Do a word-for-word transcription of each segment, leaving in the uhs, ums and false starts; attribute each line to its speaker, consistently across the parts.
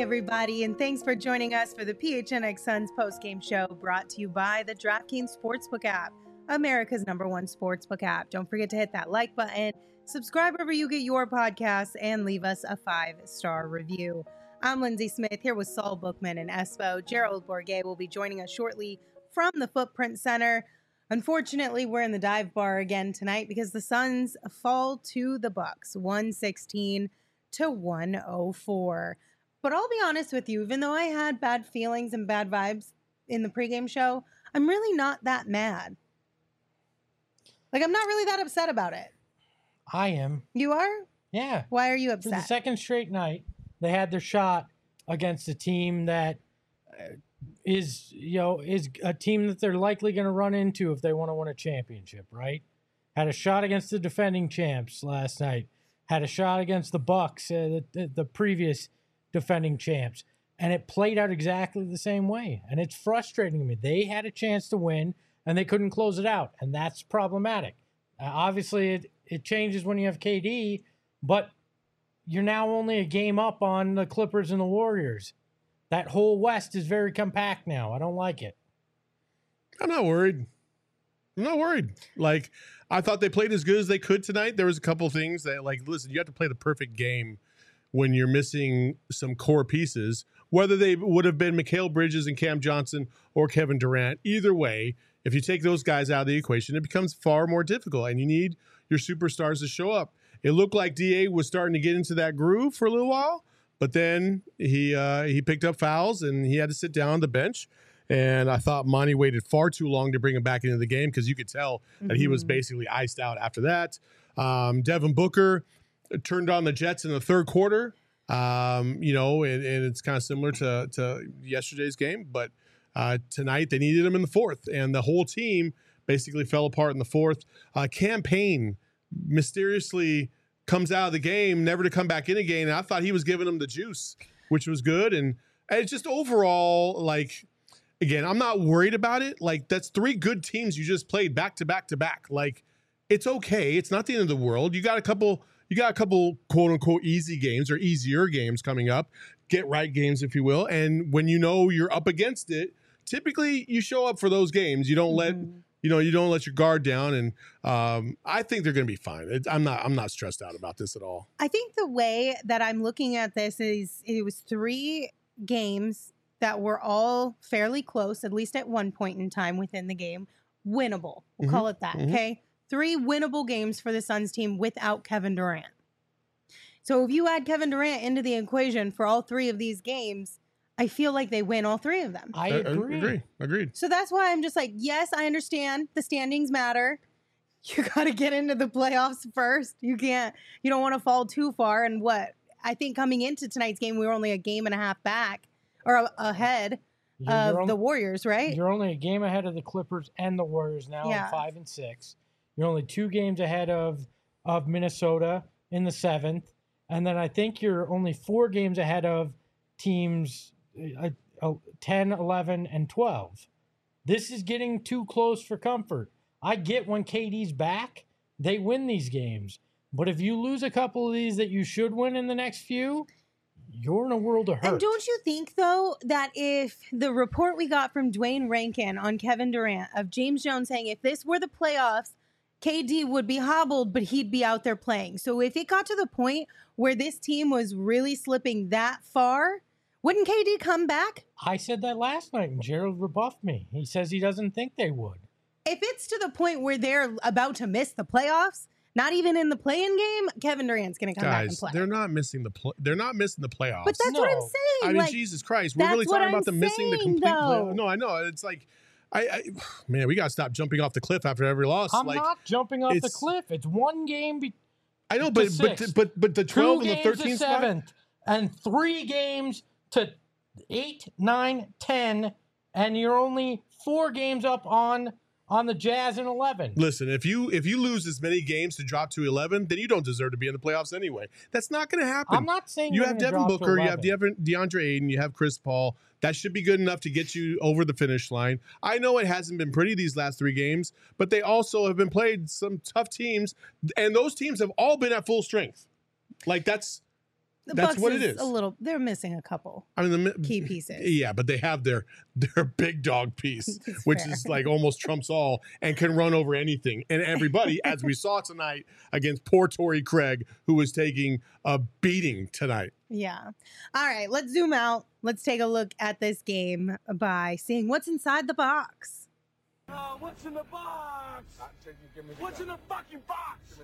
Speaker 1: everybody, and thanks for joining us for the P H N X Suns postgame show brought to you by the DraftKings Sportsbook app, America's number one sportsbook app. Don't forget to hit that like button, subscribe wherever you get your podcasts, and leave us a five-star review. I'm Lindsay Smith here with Saul Bookman and Espo. Gerald Bourguet will be joining us shortly from the Footprint Center. Unfortunately, we're in the dive bar again tonight because the Suns fall to the Bucks, one sixteen to one oh four. But I'll be honest with you, even though I had bad feelings and bad vibes in the pregame show, I'm really not that mad. Like, I'm not really that upset about it.
Speaker 2: I am.
Speaker 1: You are?
Speaker 2: Yeah.
Speaker 1: Why are you
Speaker 2: For
Speaker 1: upset?
Speaker 2: the second straight night, they had their shot against a team that is, you know, is a team that they're likely going to run into if they want to win a championship, right? Had a shot against the defending champs last night. Had a shot against the Bucks, uh, the, the previous defending champs, and it played out exactly the same way. And it's frustrating to me. They had a chance to win, and they couldn't close it out, and that's problematic. Uh, obviously, it, it changes when you have K D, but you're now only a game up on the Clippers and the Warriors. That whole West is very compact now. I don't like it.
Speaker 3: I'm not worried. I'm not worried. Like, I thought they played as good as they could tonight. There was a couple things that, like, listen, you have to play the perfect game when you're missing some core pieces, whether they would have been Mikal Bridges and Cam Johnson or Kevin Durant. Either way, if you take those guys out of the equation, it becomes far more difficult, and you need your superstars to show up. It looked like D A was starting to get into that groove for a little while, but then he uh, he picked up fouls, and he had to sit down on the bench. And I thought Monty waited far too long to bring him back into the game because you could tell mm-hmm. that he was basically iced out after that. Um, Devin Booker turned on the Jets in the third quarter, um, you know, and, and it's kind of similar to, to yesterday's game. But uh, tonight they needed him in the fourth, and the whole team basically fell apart in the fourth. Uh, Cam Payne mysteriously comes out of the game, never to come back in again. And I thought he was giving them the juice, which was good. And it's just overall, like, again, I'm not worried about it. Like, that's three good teams you just played back to back to back. Like, it's okay. It's not the end of the world. You got a couple, you got a couple quote unquote easy games or easier games coming up, get right games, if you will. And when you know you're up against it, typically you show up for those games. You don't mm-hmm. let, you know, you don't let your guard down. And um, I think they're going to be fine. It, I'm not, I'm not stressed out about this at all.
Speaker 1: I think the way that I'm looking at this is it was three games that were all fairly close, at least at one point in time within the game. Winnable. We'll mm-hmm. call it that, mm-hmm. okay? Three winnable games for the Suns team without Kevin Durant. So if you add Kevin Durant into the equation for all three of these games, I feel like they win all three of them.
Speaker 2: I agree.
Speaker 3: I agree. Agreed.
Speaker 1: So that's why I'm just like, yes, I understand the standings matter. You got to get into the playoffs first. You can't, you don't want to fall too far. And what? I think coming into tonight's game, we were only a game and a half back or ahead
Speaker 2: you're,
Speaker 1: of
Speaker 2: you're only,
Speaker 1: the Warriors, right?
Speaker 2: You're only a game ahead of the Clippers and the Warriors now, yeah. five and six. You're only two games ahead of, of Minnesota in the seventh. And then I think you're only four games ahead of teams uh, uh, ten, eleven, and twelve. This is getting too close for comfort. I get when K D's back, they win these games. But if you lose a couple of these that you should win in the next few, you're in a world of hurt.
Speaker 1: And don't you think, though, that if the report we got from Dwayne Rankin on Kevin Durant of James Jones saying if this were the playoffs, K D would be hobbled, but he'd be out there playing. So if it got to the point where this team was really slipping that far, wouldn't K D come back?
Speaker 2: I said that last night, and Gerald rebuffed me. He says he doesn't think they would.
Speaker 1: If it's to the point where they're about to miss the playoffs, not even in the play-in game, Kevin Durant's going to come
Speaker 3: Guys,
Speaker 1: back and play.
Speaker 3: They're not missing the pl- they're not missing the playoffs.
Speaker 1: But that's
Speaker 2: no.
Speaker 1: what I'm saying.
Speaker 3: I mean,
Speaker 1: like,
Speaker 3: Jesus Christ, we're really talking about them missing the complete playoffs. No, I know. It's like, I, I man, we got to stop jumping off the cliff after every loss.
Speaker 2: I'm
Speaker 3: like,
Speaker 2: not jumping off the cliff. It's one game. Be-
Speaker 3: I know, but but, but but the twelve
Speaker 2: Two
Speaker 3: and the thirteen
Speaker 2: spot, seventh, and three games to eight, nine, ten, and you're only four games up on. On the Jazz in eleven.
Speaker 3: Listen, if you if you lose as many games to drop to eleven, then you don't deserve to be in the playoffs anyway. That's not going to happen.
Speaker 2: I'm not saying
Speaker 3: you
Speaker 2: you're
Speaker 3: have Devin Booker, you have Devin, DeAndre Ayton, you have Chris Paul. That should be good enough to get you over the finish line. I know it hasn't been pretty these last three games, but they also have been played some tough teams, and those teams have all been at full strength. Like that's
Speaker 1: The
Speaker 3: That's
Speaker 1: Bucks
Speaker 3: what it
Speaker 1: is
Speaker 3: is.
Speaker 1: a little. They're missing a couple
Speaker 3: I mean, the
Speaker 1: key pieces.
Speaker 3: Yeah, but they have their their big dog piece,
Speaker 1: It's
Speaker 3: which
Speaker 1: fair.
Speaker 3: is like almost trumps all and can run over anything and everybody, as we saw tonight against poor Torrey Craig, who was taking a beating tonight.
Speaker 1: Yeah. All right, let's zoom out. Let's take a look at this game by seeing what's inside the box.
Speaker 4: Uh, what's in the box? What's in the fucking box?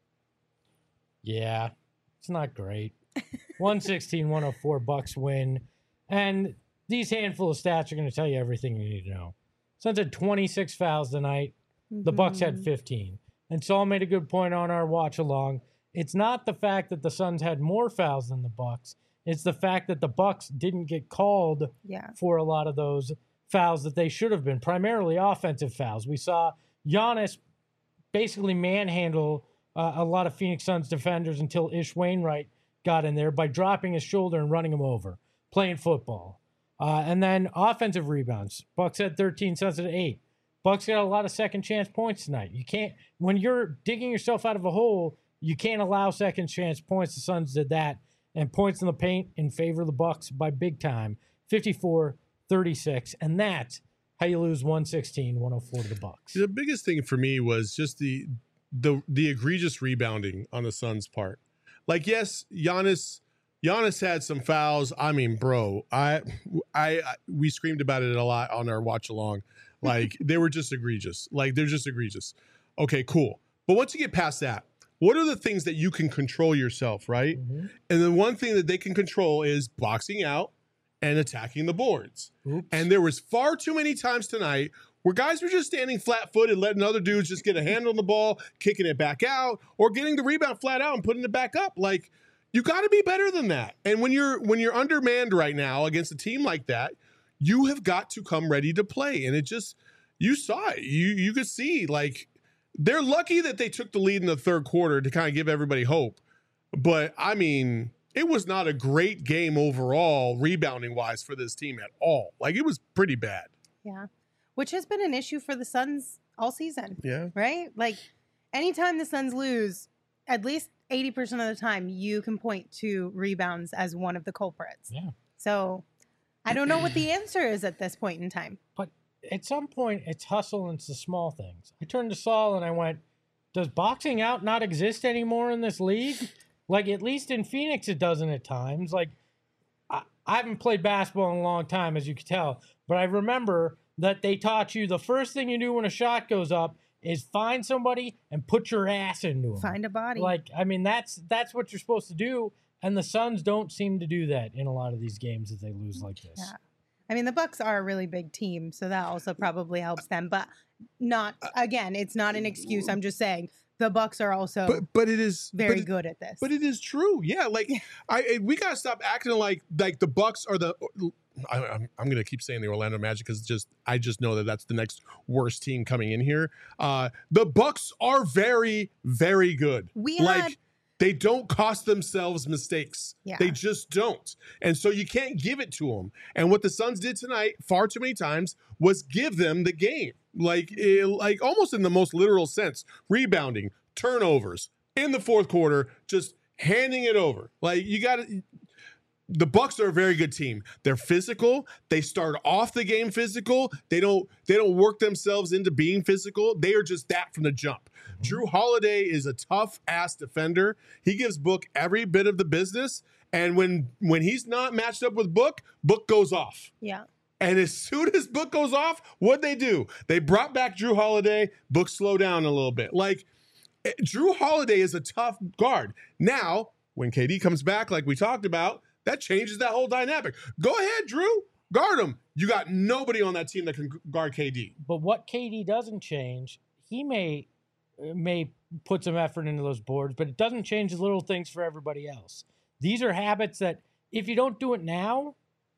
Speaker 2: Yeah, it's not great. one sixteen one oh four Bucks win. And these handful of stats are going to tell you everything you need to know. Suns had twenty-six fouls tonight. The Bucks had fifteen. And Saul made a good point on our watch along. It's not the fact that the Suns had more fouls than the Bucks. It's the fact that the Bucks didn't get called
Speaker 1: Yeah.
Speaker 2: for a lot of those fouls that they should have been, primarily offensive fouls. We saw Giannis basically manhandle uh, a lot of Phoenix Suns defenders until Ish Wainwright got in there by dropping his shoulder and running him over, playing football. Uh, and then offensive rebounds. Bucks had thirteen, Suns had eight. Bucks got a lot of second chance points tonight. You can't, when you're digging yourself out of a hole, you can't allow second chance points. The Suns did that. And points in the paint in favor of the Bucks by big time, fifty-four thirty-six. And that's how you lose one sixteen one oh four to the Bucks.
Speaker 3: The biggest thing for me was just the the the egregious rebounding on the Suns' part. Like, yes, Giannis Giannis had some fouls. I mean, bro, I I, I we screamed about it a lot on our watch along. Like, they were just egregious. Like, they're just egregious. Okay, cool. But once you get past that, what are the things that you can control yourself, right?
Speaker 2: Mm-hmm.
Speaker 3: And the one thing that they can control is boxing out and attacking the boards.
Speaker 2: Oops.
Speaker 3: And there was far too many times tonight where guys were just standing flat-footed, letting other dudes just get a hand on the ball, kicking it back out, or getting the rebound flat out and putting it back up. Like, you got to be better than that. And when you're when you're undermanned right now against a team like that, you have got to come ready to play. And it just, you saw it. You you could see, like, they're lucky that they took the lead in the third quarter to kind of give everybody hope. But, I mean, it was not a great game overall, rebounding-wise, for this team at all. Like, it was pretty bad.
Speaker 1: Yeah. Which has been an issue for the Suns all season.
Speaker 3: Yeah.
Speaker 1: Right? Like, anytime the Suns lose, at least eighty percent of the time, you can point to rebounds as one of the culprits.
Speaker 2: Yeah.
Speaker 1: So, I don't know what the answer is at this point in time.
Speaker 2: But at some point, it's hustle and it's the small things. I turned to Saul and I went, does boxing out not exist anymore in this league? Like, at least in Phoenix, it doesn't at times. Like, I, I haven't played basketball in a long time, as you can tell. But I remember that they taught you the first thing you do when a shot goes up is find somebody and put your ass into them.
Speaker 1: Find a body.
Speaker 2: Like, I mean, that's that's what you're supposed to do. And the Suns don't seem to do that in a lot of these games that they lose like this.
Speaker 1: Yeah. I mean, the Bucks are a really big team, so that also probably helps them. But not, again, it's not an excuse. I'm just saying the Bucks are also
Speaker 3: But but it is
Speaker 1: very
Speaker 3: but,
Speaker 1: good at this.
Speaker 3: But it is true. Yeah, like I we got to stop acting like like the Bucks are the I, I'm, I'm going to keep saying the Orlando Magic because just I just know that that's the next worst team coming in here. Uh, the Bucks are very, very good.
Speaker 1: We
Speaker 3: like
Speaker 1: had-
Speaker 3: they don't cost themselves mistakes.
Speaker 1: Yeah.
Speaker 3: They just don't, and so you can't give it to them. And what the Suns did tonight, far too many times, was give them the game, like eh, like almost in the most literal sense, rebounding, turnovers in the fourth quarter, just handing it over. Like you got to. The Bucks are a very good team. They're physical. They start off the game physical. They don't they don't work themselves into being physical. They are just that from the jump. Mm-hmm. Drew Holiday is a tough ass defender. He gives Book every bit of the business. And when when he's not matched up with Book, Book goes off.
Speaker 1: yeah.
Speaker 3: And as soon as Book goes off, what'd they do? They brought back Drew Holiday. Book slowed down a little bit. Like Drew Holiday is a tough guard. Now, when K D comes back, like we talked about, that changes that whole dynamic. Go ahead, Drew. Guard him. You got nobody on that team that can guard K D.
Speaker 2: But what K D doesn't change, he may may put some effort into those boards, but it doesn't change the little things for everybody else. These are habits that if you don't do it now,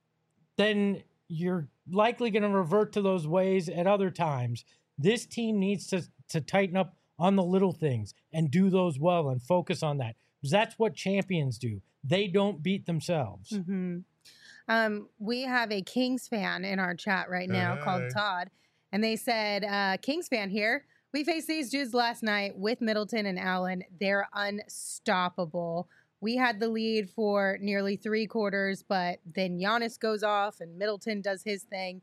Speaker 2: then you're likely going to revert to those ways at other times. This team needs to, to tighten up on the little things and do those well and focus on that. Because that's what champions do. They don't beat themselves.
Speaker 1: Mm-hmm. Um, we have a Kings fan in our chat right now
Speaker 3: Hey.
Speaker 1: called Todd, and they said, uh, Kings fan here. We faced these dudes last night with Middleton and Allen. They're unstoppable. we had the lead for nearly three quarters, but then Giannis goes off and Middleton does his thing.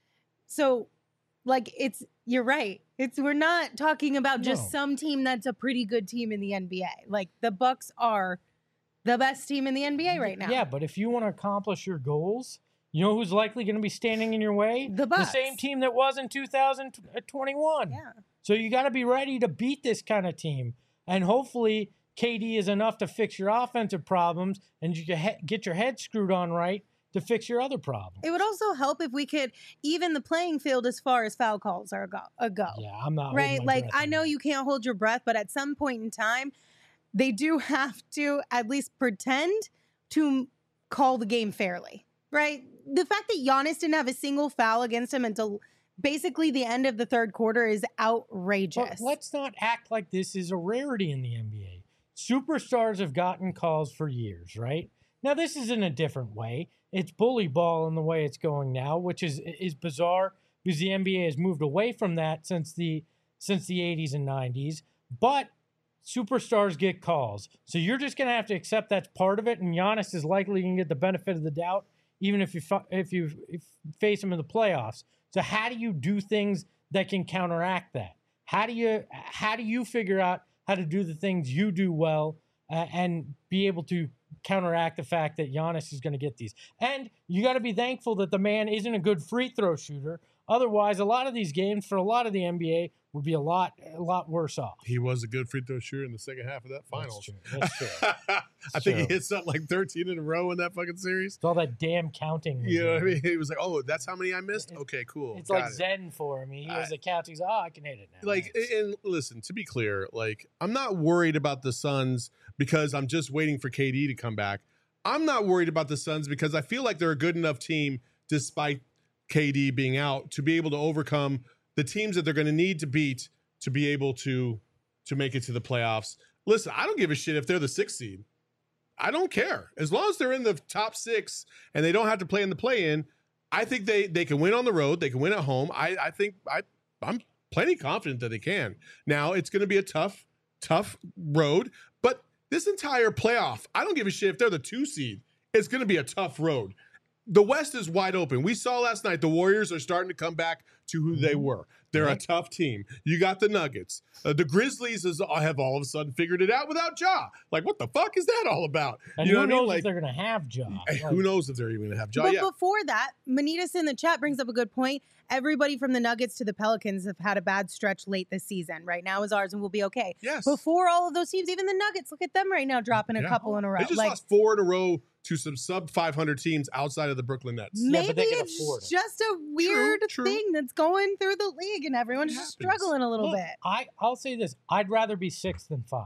Speaker 1: So, like, it's you're right. It's we're not talking about just
Speaker 2: No.
Speaker 1: some team that's a pretty good team in the N B A. Like, the Bucks are the best team in the N B A right now.
Speaker 2: Yeah, but if you want to accomplish your goals, you know who's likely going to be standing in your way?
Speaker 1: The Bucks.
Speaker 2: same team that was in two thousand twenty-one.
Speaker 1: Yeah.
Speaker 2: So you got to be ready to beat this kind of team. And hopefully K D is enough to fix your offensive problems and you can he- get your head screwed on right to fix your other problems.
Speaker 1: It would also help if we could even the playing field as far as foul calls are go. A go.
Speaker 2: Yeah, I'm not
Speaker 1: Right?
Speaker 2: holding my
Speaker 1: Like,
Speaker 2: breath
Speaker 1: I
Speaker 2: on
Speaker 1: know
Speaker 2: that.
Speaker 1: you can't hold your breath, but at some point in time, they do have to at least pretend to call the game fairly, right? The fact that Giannis didn't have a single foul against him until basically the end of the third quarter is outrageous.
Speaker 2: But let's not act like this is a rarity in the N B A. Superstars have gotten calls for years, right? Now, this is in a different way. It's bully ball in the way it's going now, which is is bizarre because the N B A has moved away from that since the since the eighties and nineties. But superstars get calls. So you're just going to have to accept that's part of it, and Giannis is likely going to get the benefit of the doubt even if you fu- if you if face him in the playoffs. So how do you do things that can counteract that? How do you how do you figure out how to do the things you do well uh, and be able to counteract the fact that Giannis is going to get these? And you got to be thankful that the man isn't a good free throw shooter. Otherwise, a lot of these games for a lot of the N B A would be a lot a lot worse off.
Speaker 3: He was a good free throw shooter in the second half of that finals.
Speaker 2: That's true. That's true.
Speaker 3: I think he
Speaker 2: true.
Speaker 3: hit something like thirteen in a row in that fucking series.
Speaker 2: It's all that damn counting.
Speaker 3: You know what I
Speaker 2: again.
Speaker 3: mean? He was like, "Oh, that's how many I missed."
Speaker 2: It-
Speaker 3: Okay, cool.
Speaker 2: It's
Speaker 3: Got
Speaker 2: like
Speaker 3: it.
Speaker 2: Zen for him. He has
Speaker 3: I-
Speaker 2: the count. He's oh, I can hit it now.
Speaker 3: Like,
Speaker 2: Nice.
Speaker 3: and listen, to be clear, like, I'm not worried about the Suns because I'm just waiting for K D to come back. I'm not worried about the Suns because I feel like they're a good enough team, despite K D being out, to be able to overcome the teams that they're going to need to beat to be able to to make it to the playoffs. Listen, I don't give a shit if they're the sixth seed. I don't care. As long as they're in the top six and they don't have to play in the play-in, I think they they can win on the road. They can win at home. I, I think I, I'm plenty confident that they can. Now, it's going to be a tough, tough road, but this entire playoff, I don't give a shit if they're the two seed. It's going to be a tough road. The West is wide open. We saw last night the Warriors are starting to come back to who they were. They're
Speaker 2: Right.
Speaker 3: a tough team. You got the Nuggets. Uh, the Grizzlies is, have all of a sudden figured it out without Ja. Like, what the fuck is that all about?
Speaker 2: and
Speaker 3: you
Speaker 2: who
Speaker 3: know what I
Speaker 2: knows
Speaker 3: mean?
Speaker 2: if
Speaker 3: Like,
Speaker 2: they're going to have jobs?
Speaker 3: who knows if they're even going to have Ja?
Speaker 1: But
Speaker 3: Yeah.
Speaker 1: before that, Manitas in the chat brings up a good point. Everybody from the Nuggets to the Pelicans have had a bad stretch late this season. Right now is ours, and we'll be okay.
Speaker 3: Yes.
Speaker 1: Before all of those teams, even the Nuggets, look at them right now dropping a
Speaker 3: Yeah.
Speaker 1: couple in a row.
Speaker 3: They just
Speaker 1: Like,
Speaker 3: lost four in a row to some sub five hundred teams outside of the Brooklyn Nets.
Speaker 2: Yeah,
Speaker 1: maybe
Speaker 2: but they can
Speaker 1: it's
Speaker 2: afford it.
Speaker 1: just a weird
Speaker 3: true.
Speaker 1: thing that's going through the league, and everyone's
Speaker 3: It
Speaker 1: just
Speaker 3: happens.
Speaker 1: struggling a little
Speaker 2: Look,
Speaker 1: bit.
Speaker 2: I I'll say this: I'd rather be six than five.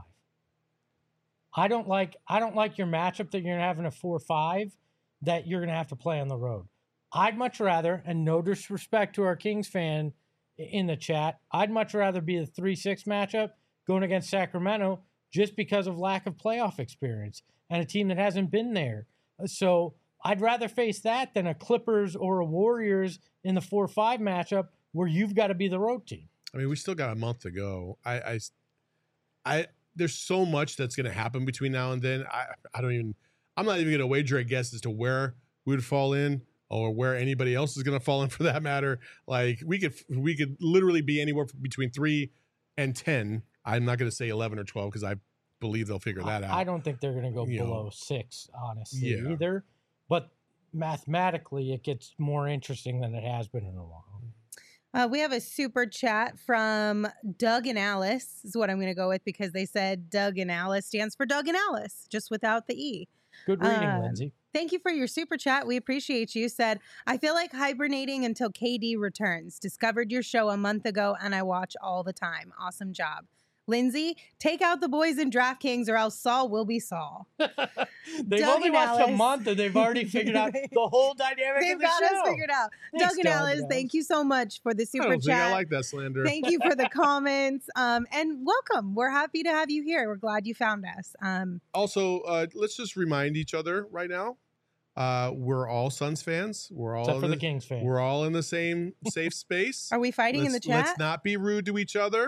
Speaker 2: I don't like I don't like your matchup that you're gonna have in a four five that you're gonna have to play on the road. I'd much rather, and no disrespect to our Kings fan i- in the chat, I'd much rather be the three six matchup going against Sacramento just because of lack of playoff experience and a team that hasn't been there. So I'd rather face that than a Clippers or a Warriors in the four five matchup where you've got to be the road team.
Speaker 3: I mean, we still got a month to go. I, I, I there's so much that's going to happen between now and then. I, I don't even. I'm not even going to wager a guess as to where we would fall in or where anybody else is going to fall in for that matter. Like we could, we could literally be anywhere between three and ten. I'm not going to say eleven or twelve because I believe they'll figure that
Speaker 2: I,
Speaker 3: out.
Speaker 2: I don't think they're going to go
Speaker 3: You know.
Speaker 2: below six, honestly,
Speaker 3: Yeah.
Speaker 2: either. But mathematically, it gets more interesting than it has been in a while.
Speaker 1: Uh, we have a super chat from Doug and Alice, is what I'm going to go with because they said Doug and Alice stands for Doug and Alice, just without the E.
Speaker 2: Good reading,
Speaker 1: Um,
Speaker 2: Lindsay.
Speaker 1: Thank you for your super chat. We appreciate you. Said, I feel like hibernating until K D returns. Discovered your show a month ago and I watch all the time. Awesome job. Lindsay, take out the boys in DraftKings or else Saul will be Saul.
Speaker 2: They've
Speaker 1: Doug
Speaker 2: only
Speaker 1: and
Speaker 2: watched a
Speaker 1: Alice.
Speaker 2: month and they've already figured out the whole dynamic
Speaker 1: They've
Speaker 2: of the
Speaker 1: got
Speaker 2: show.
Speaker 1: us figured out.
Speaker 2: Thanks,
Speaker 1: Doug and
Speaker 2: Doug
Speaker 1: Alice,
Speaker 2: and
Speaker 1: thank you so much for the
Speaker 3: I
Speaker 1: super
Speaker 3: don't think
Speaker 1: chat.
Speaker 3: I like that slander.
Speaker 1: Thank you for the comments. Um, and welcome. We're happy to have you here. We're glad you found us. Um,
Speaker 3: Also, uh, let's just remind each other right now. Uh, we're all Suns fans. We're all
Speaker 2: Except
Speaker 3: in
Speaker 2: for the Kings fans.
Speaker 3: We're all in the same safe space.
Speaker 1: are we fighting in the
Speaker 3: Let's-
Speaker 1: chat?
Speaker 3: Let's not be rude to each other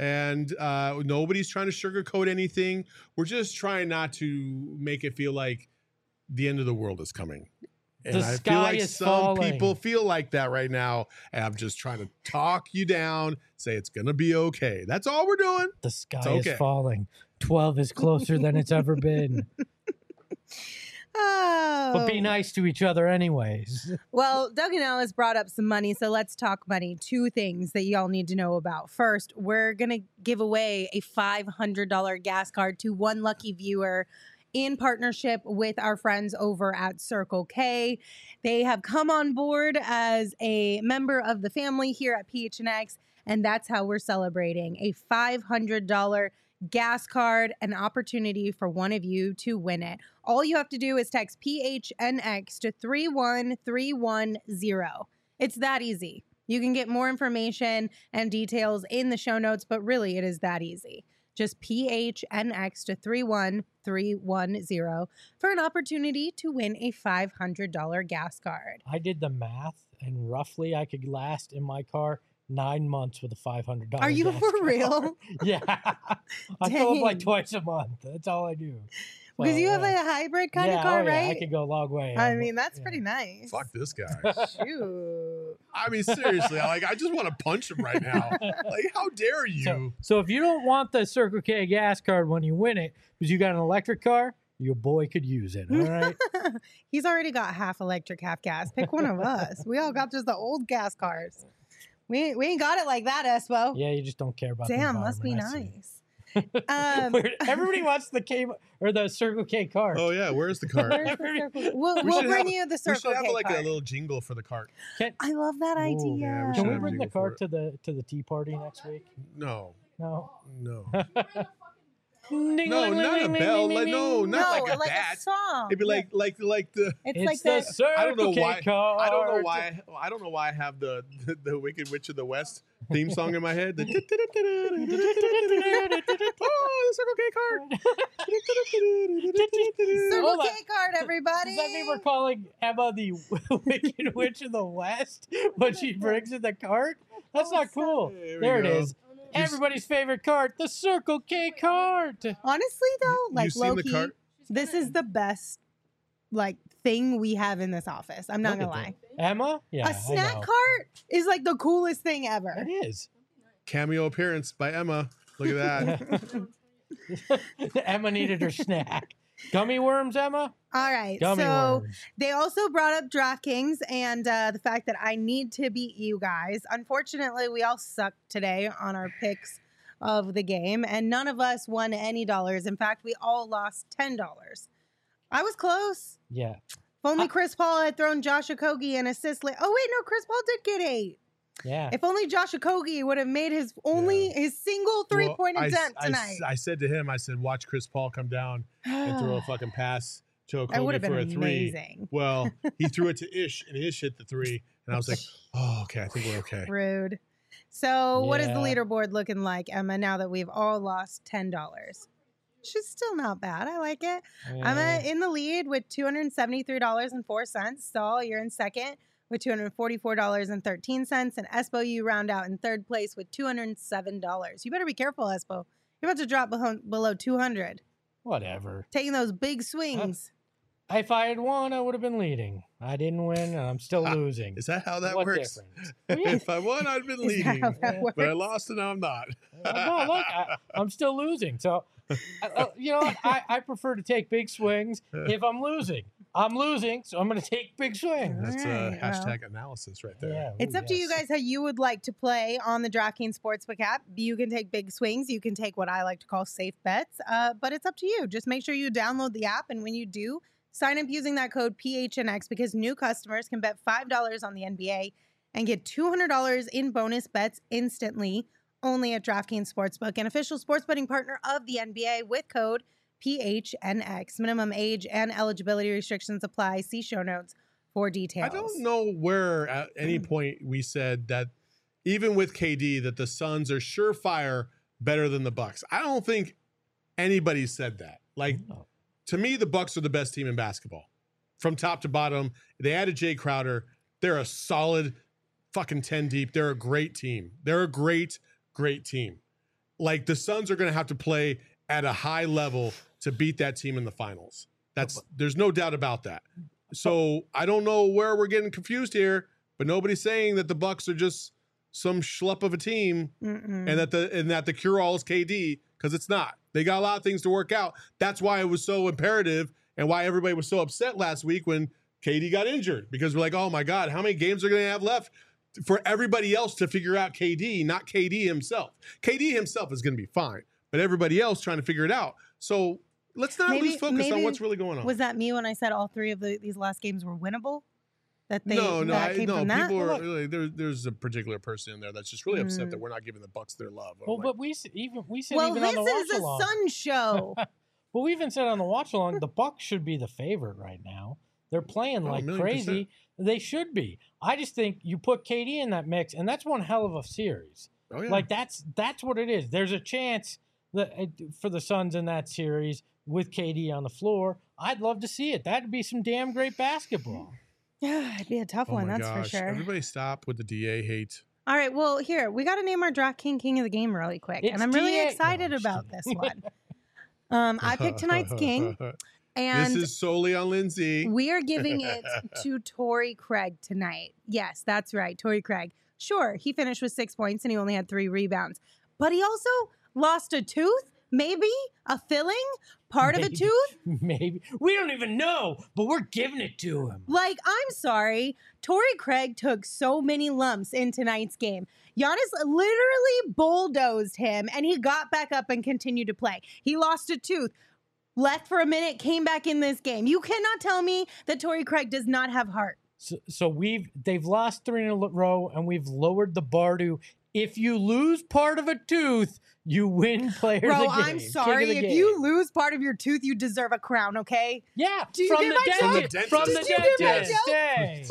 Speaker 3: And uh, nobody's trying to sugarcoat anything. We're just trying not to make it feel like the end of the world is coming. And
Speaker 2: The
Speaker 3: I
Speaker 2: sky
Speaker 3: feel like
Speaker 2: is
Speaker 3: some
Speaker 2: falling.
Speaker 3: people feel like that right now. And I'm just trying to talk you down, say it's going to be okay. That's all we're doing.
Speaker 2: The sky
Speaker 3: okay.
Speaker 2: is falling. twelve is closer than it's ever been.
Speaker 1: Oh.
Speaker 2: But be nice to each other anyways.
Speaker 1: Well, Doug and Alice brought up some money, so let's talk money. Two things that y'all need to know about. First, we're going to give away a five hundred dollars gas card to one lucky viewer in partnership with our friends over at Circle K. They have come on board as a member of the family here at P H N X, and that's how we're celebrating a five hundred dollars gas card, an opportunity for one of you to win it. All you have to do is text P H N X to three one three one zero. It's that easy. You can get more information and details in the show notes, but really it is that easy. Just P H N X to three one three one zero for an opportunity to win a five hundred dollars gas card.
Speaker 2: I did the math, and roughly I could last in my car nine months with a five hundred dollars.
Speaker 1: Are you
Speaker 2: gas
Speaker 1: for
Speaker 2: card.
Speaker 1: real?
Speaker 2: Yeah. I fill up like
Speaker 1: Dang.
Speaker 2: twice a month. That's all I do.
Speaker 1: Because
Speaker 2: So,
Speaker 1: you have
Speaker 2: yeah.
Speaker 1: a hybrid kind
Speaker 2: yeah,
Speaker 1: of car,
Speaker 2: oh, yeah,
Speaker 1: right?
Speaker 2: I could go a long way.
Speaker 1: I
Speaker 2: on-
Speaker 1: mean, that's
Speaker 2: yeah.
Speaker 1: pretty nice.
Speaker 3: Fuck this guy.
Speaker 1: Shoot.
Speaker 3: I mean, seriously, like I just want to punch him right now. Like, how dare you?
Speaker 2: So, so if you don't want the Circle K gas card when you win it, because you got an electric car, your boy could use it. All right.
Speaker 1: He's already got half electric, half gas. Pick one of us. We all got just the old gas cars. We ain't, we ain't got it like that, Espo.
Speaker 2: Yeah, you just don't care about.
Speaker 1: Damn,
Speaker 2: the
Speaker 1: must be
Speaker 2: environment, I see.
Speaker 1: nice. Um,
Speaker 2: Weird. Everybody wants the K or the Circle K card.
Speaker 3: Oh yeah, where's the cart?
Speaker 1: Where's the circle? We'll,
Speaker 3: We
Speaker 1: we'll
Speaker 3: should
Speaker 1: bring
Speaker 3: have-
Speaker 1: you the
Speaker 3: We
Speaker 1: Circle
Speaker 3: should have
Speaker 1: K
Speaker 3: like
Speaker 1: card.
Speaker 3: a little jingle for the cart.
Speaker 2: Can,
Speaker 1: I love that
Speaker 2: Ooh,
Speaker 1: idea.
Speaker 3: yeah, we
Speaker 2: can
Speaker 3: should
Speaker 2: we
Speaker 3: have
Speaker 2: bring the
Speaker 3: jingle for
Speaker 2: cart
Speaker 3: it.
Speaker 2: to the to the tea party next week?
Speaker 3: No,
Speaker 2: No.
Speaker 3: no,
Speaker 2: Ding,
Speaker 3: no,
Speaker 2: ling,
Speaker 3: not
Speaker 2: ling,
Speaker 3: a
Speaker 2: ling,
Speaker 3: bell.
Speaker 2: ling,
Speaker 3: Like,
Speaker 2: ling,
Speaker 3: no,
Speaker 2: ling.
Speaker 3: not
Speaker 1: no,
Speaker 3: like a
Speaker 1: like
Speaker 3: bat.
Speaker 1: a song.
Speaker 3: It'd be like, like, like the.
Speaker 1: It's,
Speaker 2: It's
Speaker 1: like
Speaker 2: the
Speaker 1: the.
Speaker 2: Circle
Speaker 3: I don't know
Speaker 2: K
Speaker 3: why.
Speaker 2: card.
Speaker 3: I don't know why. I don't know why I have the the, the Wicked Witch of the West theme song in my head. The oh, the Circle K card.
Speaker 1: Circle
Speaker 2: Hold on.
Speaker 1: K card, everybody.
Speaker 2: Does that mean we're calling Emma the Wicked Witch of the West when she brings in the cart? That's not cool.
Speaker 3: There we
Speaker 2: There it
Speaker 3: go.
Speaker 2: is. Everybody's favorite cart, the Circle K cart.
Speaker 1: Honestly, though, like
Speaker 3: seen the
Speaker 1: low-key,
Speaker 3: cart?
Speaker 1: this is the best like thing we have in this office. I'm not
Speaker 2: Look
Speaker 1: gonna
Speaker 2: at
Speaker 1: lie.
Speaker 2: that. Emma? Yeah.
Speaker 1: A snack
Speaker 2: I know.
Speaker 1: cart is like the coolest thing ever.
Speaker 2: It is.
Speaker 3: Cameo appearance by Emma. Look at that.
Speaker 2: Emma needed her snack. Gummy worms, Emma?
Speaker 1: All right.
Speaker 2: Gummy
Speaker 1: so
Speaker 2: worms.
Speaker 1: they also brought up DraftKings and uh, the fact that I need to beat you guys. Unfortunately, we all sucked today on our picks of the game, and none of us won any dollars. In fact, we all lost ten dollars. I was close.
Speaker 2: Yeah.
Speaker 1: If only
Speaker 2: I-
Speaker 1: Chris Paul had thrown Josh Okogie an assist. Li- oh, wait, no, Chris Paul did get eight.
Speaker 2: Yeah.
Speaker 1: If only Josh Okogie would have made his only his single three
Speaker 3: Well,
Speaker 1: point
Speaker 3: I-
Speaker 1: attempt
Speaker 3: I,
Speaker 1: tonight.
Speaker 3: I said to him, I said, watch Chris Paul come down and throw a fucking pass to
Speaker 1: That would
Speaker 3: Okogie
Speaker 1: have
Speaker 3: for
Speaker 1: been
Speaker 3: a three.
Speaker 1: amazing.
Speaker 3: Well, he threw it to Ish, and Ish hit the three. And I was like, oh, okay, I think we're okay.
Speaker 1: Rude. So, what is the
Speaker 2: Yeah.
Speaker 1: leaderboard looking like, Emma? Now that we've all lost ten dollars, she's still not bad. I like it. I'm
Speaker 2: Yeah.
Speaker 1: uh, in the lead with two hundred seventy-three dollars and four cents. Saul, you're in second with two hundred forty-four dollars and thirteen cents, and Espo, you round out in third place with two hundred seven dollars. You better be careful, Espo. You're about to drop below, below two hundred.
Speaker 2: Whatever.
Speaker 1: Taking those big swings.
Speaker 2: If I had won, I would have been leading. I didn't win, and I'm still
Speaker 3: Ah,
Speaker 2: losing.
Speaker 3: Is that how that
Speaker 2: What
Speaker 3: works?
Speaker 2: difference? Well, yeah.
Speaker 3: If I won, I'd been
Speaker 1: Is that
Speaker 3: leading.
Speaker 1: how that
Speaker 2: Yeah.
Speaker 1: works?
Speaker 3: But I lost, and now I'm not.
Speaker 2: no, look, I, I'm still losing. So, I, uh, you know, what? I, I prefer to take big swings if I'm losing. I'm losing, so I'm going to take big swings.
Speaker 3: That's
Speaker 1: Alright,
Speaker 3: a
Speaker 1: well.
Speaker 3: hashtag analysis right there.
Speaker 2: Yeah,
Speaker 1: It's
Speaker 2: ooh,
Speaker 1: up to you
Speaker 2: yes.
Speaker 1: guys how you would like to play on the DraftKings Sportsbook app. You can take big swings. You can take what I like to call safe bets, uh, but it's up to you. Just make sure you download the app, and when you do, sign up using that code P H N X because new customers can bet five dollars on the N B A and get two hundred dollars in bonus bets instantly only at DraftKings Sportsbook, an official sports betting partner of the N B A with code P H N X. Minimum age and eligibility restrictions apply. See show notes for details.
Speaker 3: I don't know where at any point we said that even with K D that the Suns are surefire better than the Bucks. I don't think anybody said that. Like
Speaker 2: No.
Speaker 3: to me, the Bucks are the best team in basketball from top to bottom. They added Jay Crowder. They're a solid fucking ten deep. They're a great team. They're a great, great team. like the Suns are going to have to play at a high level to beat that team in the finals. That's there's no doubt about that. So I don't know where we're getting confused here, but nobody's saying that the Bucks are just some schlup of a team Mm-mm. and that the and that the cure all is K D, because it's not. They got a lot of things to work out. That's why it was so imperative and why everybody was so upset last week when K D got injured, because we're like, oh my God, how many games are going to have left for everybody else to figure out K D, not K D himself. K D himself is going to be fine, but everybody else trying to figure it out. So let's not
Speaker 1: maybe,
Speaker 3: lose focus on what's really going on.
Speaker 1: Was that me when I said all three of the, these last games were winnable? That they
Speaker 3: no, no,
Speaker 1: that
Speaker 3: I,
Speaker 1: came
Speaker 3: no.
Speaker 1: from
Speaker 3: People
Speaker 1: that?
Speaker 3: are really, there, there's a particular person in there that's just really mm. upset that we're not giving the Bucks their love.
Speaker 2: Well,
Speaker 3: like,
Speaker 2: but we even we said
Speaker 1: well,
Speaker 2: even
Speaker 1: this
Speaker 2: on the watch
Speaker 1: is a
Speaker 2: along.
Speaker 1: Sun show.
Speaker 2: Well, we even said on the watch along, the Bucks should be the favorite right now. They're playing like oh, crazy. Percent. They should be. I just think you put K D in that mix, and that's one hell of a series.
Speaker 3: Oh, yeah.
Speaker 2: Like that's that's what it is. There's a chance that for the Suns in that series with K D on the floor. I'd love to see it. That'd be some damn great basketball.
Speaker 1: Yeah, it'd be a tough
Speaker 3: oh
Speaker 1: one,
Speaker 3: my
Speaker 1: that's
Speaker 3: gosh.
Speaker 1: for sure.
Speaker 3: Everybody stop with the D A hate.
Speaker 1: All right, well, here, we got to name our Draft King King of the Game really quick.
Speaker 2: It's
Speaker 1: and I'm really
Speaker 2: D A
Speaker 1: excited
Speaker 2: no,
Speaker 1: about this one. Um, I picked tonight's King. And
Speaker 3: this is solely on Lindsay.
Speaker 1: We are giving it to Torrey Craig tonight. Yes, that's right, Torrey Craig. Sure, he finished with six points and he only had three rebounds. But he also lost a tooth, maybe a filling, part
Speaker 2: maybe,
Speaker 1: of a tooth.
Speaker 2: Maybe. We don't even know, but we're giving it to him.
Speaker 1: Like, I'm sorry. Torrey Craig took so many lumps in tonight's game. Giannis literally bulldozed him, and he got back up and continued to play. He lost a tooth, left for a minute, came back in this game. You cannot tell me that Torrey Craig does not have heart.
Speaker 2: So, so we've they've lost three in a row, and we've lowered the bar to if you lose part of a tooth, you win player
Speaker 1: Bro,
Speaker 2: of the game.
Speaker 1: I'm sorry. If
Speaker 2: game.
Speaker 1: you lose part of your tooth, you deserve a crown, okay?
Speaker 2: Yeah,
Speaker 1: Do you
Speaker 2: from,
Speaker 1: get
Speaker 2: the
Speaker 1: my
Speaker 2: dentist,
Speaker 3: joke?
Speaker 2: from the
Speaker 1: Did you get my
Speaker 2: dentist.
Speaker 1: joke?
Speaker 2: Hey.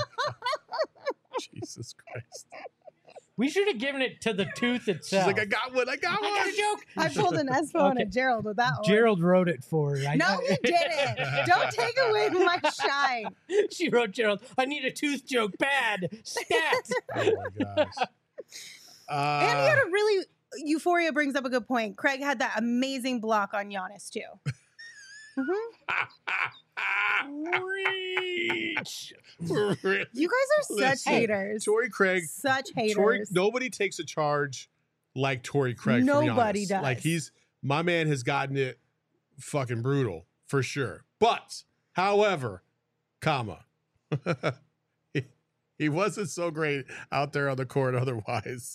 Speaker 3: Jesus Christ.
Speaker 2: We should have given it to the tooth
Speaker 3: She's
Speaker 2: itself.
Speaker 3: like, I got one. I got one.
Speaker 2: I got a joke.
Speaker 1: I pulled an Espo and
Speaker 2: Okay.
Speaker 1: a Gerald with that one.
Speaker 2: Gerald wrote it for her. I-
Speaker 1: No, he didn't. Don't take away my shine.
Speaker 2: She wrote Gerald, I need a tooth joke bad. Stat.
Speaker 3: Oh my gosh. Uh,
Speaker 1: And he had a really, Euphoria brings up a good point. Craig had that amazing block on Giannis, too. Mm-hmm.
Speaker 3: Reach. Really?
Speaker 1: You guys are such
Speaker 3: Listen,
Speaker 1: haters.
Speaker 3: Torrey Craig.
Speaker 1: Such haters.
Speaker 3: Torrey, nobody takes a charge like Torrey Craig.
Speaker 1: Nobody
Speaker 3: from Giannis.
Speaker 1: does.
Speaker 3: Like he's my man has gotten it fucking brutal for sure. But however, comma, he, he wasn't so great out there on the court. Otherwise,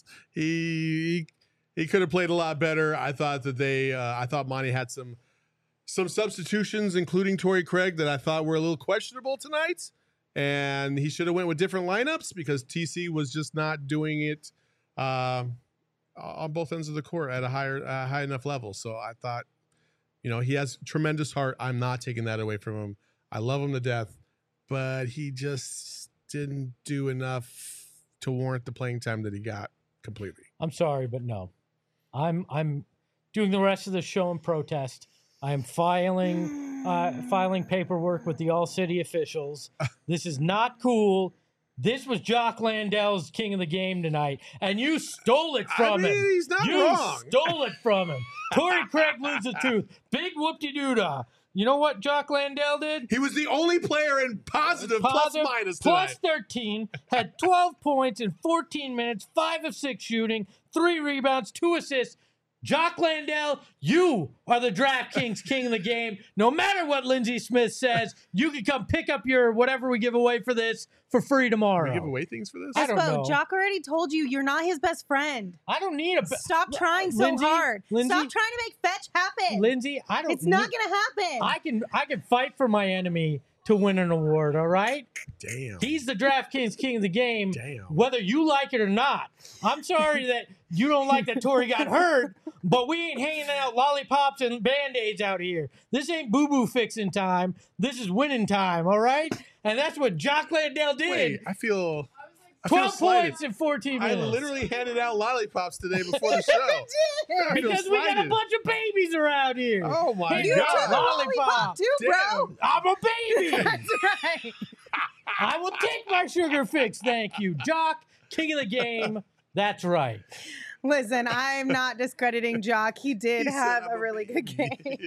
Speaker 3: he he, he could have played a lot better. I thought that they. Uh, I thought Monty had some some substitutions, including Torrey Craig, that I thought were a little questionable tonight. And he should have went with different lineups because T C was just not doing it uh, on both ends of the court at a higher, uh, high enough level. So I thought, you know, he has tremendous heart. I'm not taking that away from him. I love him to death, but he just didn't do enough to warrant the playing time that he got completely.
Speaker 2: I'm sorry, but no. I'm I'm doing the rest of the show in protest. I am filing uh, filing paperwork with the All City officials. This is not cool. This was Jock Landale's king of the game tonight, and you stole it from
Speaker 3: I mean,
Speaker 2: him.
Speaker 3: he's not
Speaker 2: you
Speaker 3: wrong.
Speaker 2: stole it from him. Torrey Craig loses a tooth. Big whoop-de-doo-dah. You know what Jock Landale did?
Speaker 3: He was the only player in positive,
Speaker 2: Positive,
Speaker 3: plus minus
Speaker 2: plus
Speaker 3: tonight.
Speaker 2: thirteen, had twelve points in fourteen minutes, five of six shooting, three rebounds, two assists. Jock Landale, you are the DraftKings king of the game. No matter what Lindsey Smith says, you can come pick up your whatever we give away for this for free tomorrow.
Speaker 3: We give away things for this?
Speaker 2: I don't know.
Speaker 1: Jock already told you you're not his best friend.
Speaker 2: I don't need a...
Speaker 1: Stop trying so
Speaker 2: Lindsay,
Speaker 1: hard.
Speaker 2: Lindsay,
Speaker 1: Stop trying to make fetch happen.
Speaker 2: Lindsay, I don't
Speaker 1: It's not
Speaker 2: need-
Speaker 1: going to happen.
Speaker 2: I can I can fight for my enemy to win an award, all right?
Speaker 3: Damn.
Speaker 2: He's the DraftKings king of the game,
Speaker 3: Damn.
Speaker 2: whether you like it or not. I'm sorry that you don't like that Torrey got hurt, but we ain't hanging out lollipops and Band-Aids out here. This ain't boo-boo fixing time. This is winning time, all right? And that's what Jock Landale did.
Speaker 3: Wait, I feel... I feel
Speaker 2: twelve
Speaker 3: slighted.
Speaker 2: points in fourteen
Speaker 3: I
Speaker 2: minutes.
Speaker 3: literally handed out lollipops today before the show. I feel
Speaker 2: Because we got a
Speaker 3: slighted.
Speaker 2: bunch of babies around here.
Speaker 3: Oh my
Speaker 2: Hey,
Speaker 1: you
Speaker 3: God.
Speaker 1: took a lollipop too, bro.
Speaker 3: Damn.
Speaker 2: I'm a baby.
Speaker 1: That's right.
Speaker 2: I will take my sugar fix, thank you. Jock, king of the game. That's right.
Speaker 1: Listen, I'm not discrediting Jock. He did
Speaker 3: He said,
Speaker 1: have
Speaker 3: "I'm
Speaker 1: a
Speaker 3: a
Speaker 1: really good game.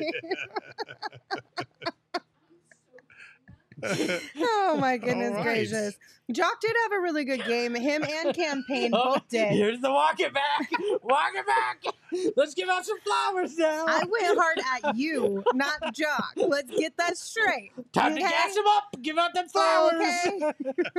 Speaker 1: Oh my goodness
Speaker 3: All right.
Speaker 1: gracious. Jock did have a really good game. Him and Campaign
Speaker 2: Oh,
Speaker 1: both did.
Speaker 2: Here's the walk it back. Walk it back. Let's give out some flowers now.
Speaker 1: I went hard at you, not Jock. Let's get that straight.
Speaker 2: Time to
Speaker 1: okay?
Speaker 2: gas him up. Give out them flowers.
Speaker 1: Okay.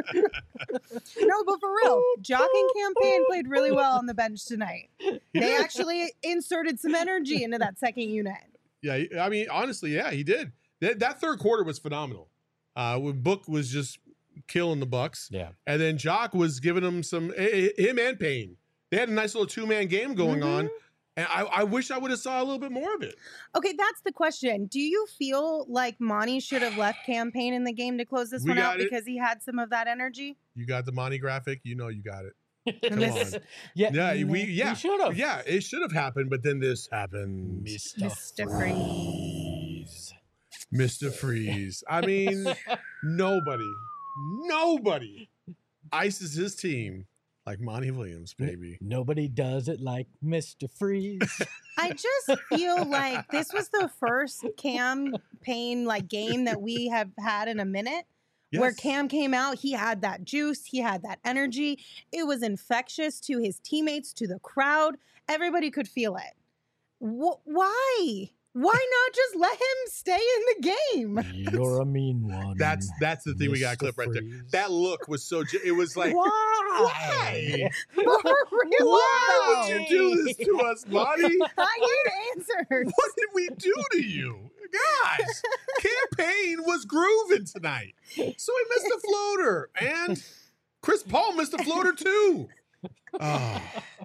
Speaker 1: No, but for real, Jock and Campaign played really well on the bench tonight. They actually inserted some energy into that second unit.
Speaker 3: Yeah, he- I mean, honestly, yeah, he did. That, that third quarter was phenomenal. Uh, when Book was just killing the Bucks,
Speaker 2: Yeah.
Speaker 3: and then Jock was giving him some eh, eh, him and Payne. They had a nice little two man game going
Speaker 1: Mhm.
Speaker 3: on, and I, I wish I would have saw a little bit more of it.
Speaker 1: Okay, that's the question. Do you feel like Monty should have left Campaign in the game to close this
Speaker 3: We
Speaker 1: one out
Speaker 3: got it.
Speaker 1: because he had some of that energy?
Speaker 3: You got the Monty graphic, you know you got it. Come
Speaker 1: This-
Speaker 3: on.
Speaker 2: Yeah.
Speaker 3: Yeah, we yeah
Speaker 2: We should have.
Speaker 3: Yeah, it should have happened, but then this happened.
Speaker 2: Mister
Speaker 1: Mister
Speaker 2: Freeze.
Speaker 3: Mister Freeze. I mean, nobody, nobody ices his team like Monty Williams, baby.
Speaker 2: Nobody does it like Mister Freeze.
Speaker 1: I just feel like this was the first Campaign like game that we have had in a minute. Where
Speaker 3: Yes.
Speaker 1: Cam came out, he had that juice, he had that energy. It was infectious to his teammates, to the crowd. Everybody could feel it. Wh- why? Why not just let him stay in the game?
Speaker 2: You're a mean one.
Speaker 3: That's that's the thing we got a
Speaker 2: Mister
Speaker 3: clip right there.
Speaker 2: Freeze.
Speaker 3: That look was so. ge- It was like,
Speaker 2: Why?
Speaker 3: why?
Speaker 1: For real,
Speaker 3: Why
Speaker 1: though.
Speaker 3: would you do this to us, Monty?
Speaker 1: I need answers.
Speaker 3: What did we do to you? Guys, Campaign was grooving tonight. So he missed a floater. And Chris Paul missed a floater too. Oh,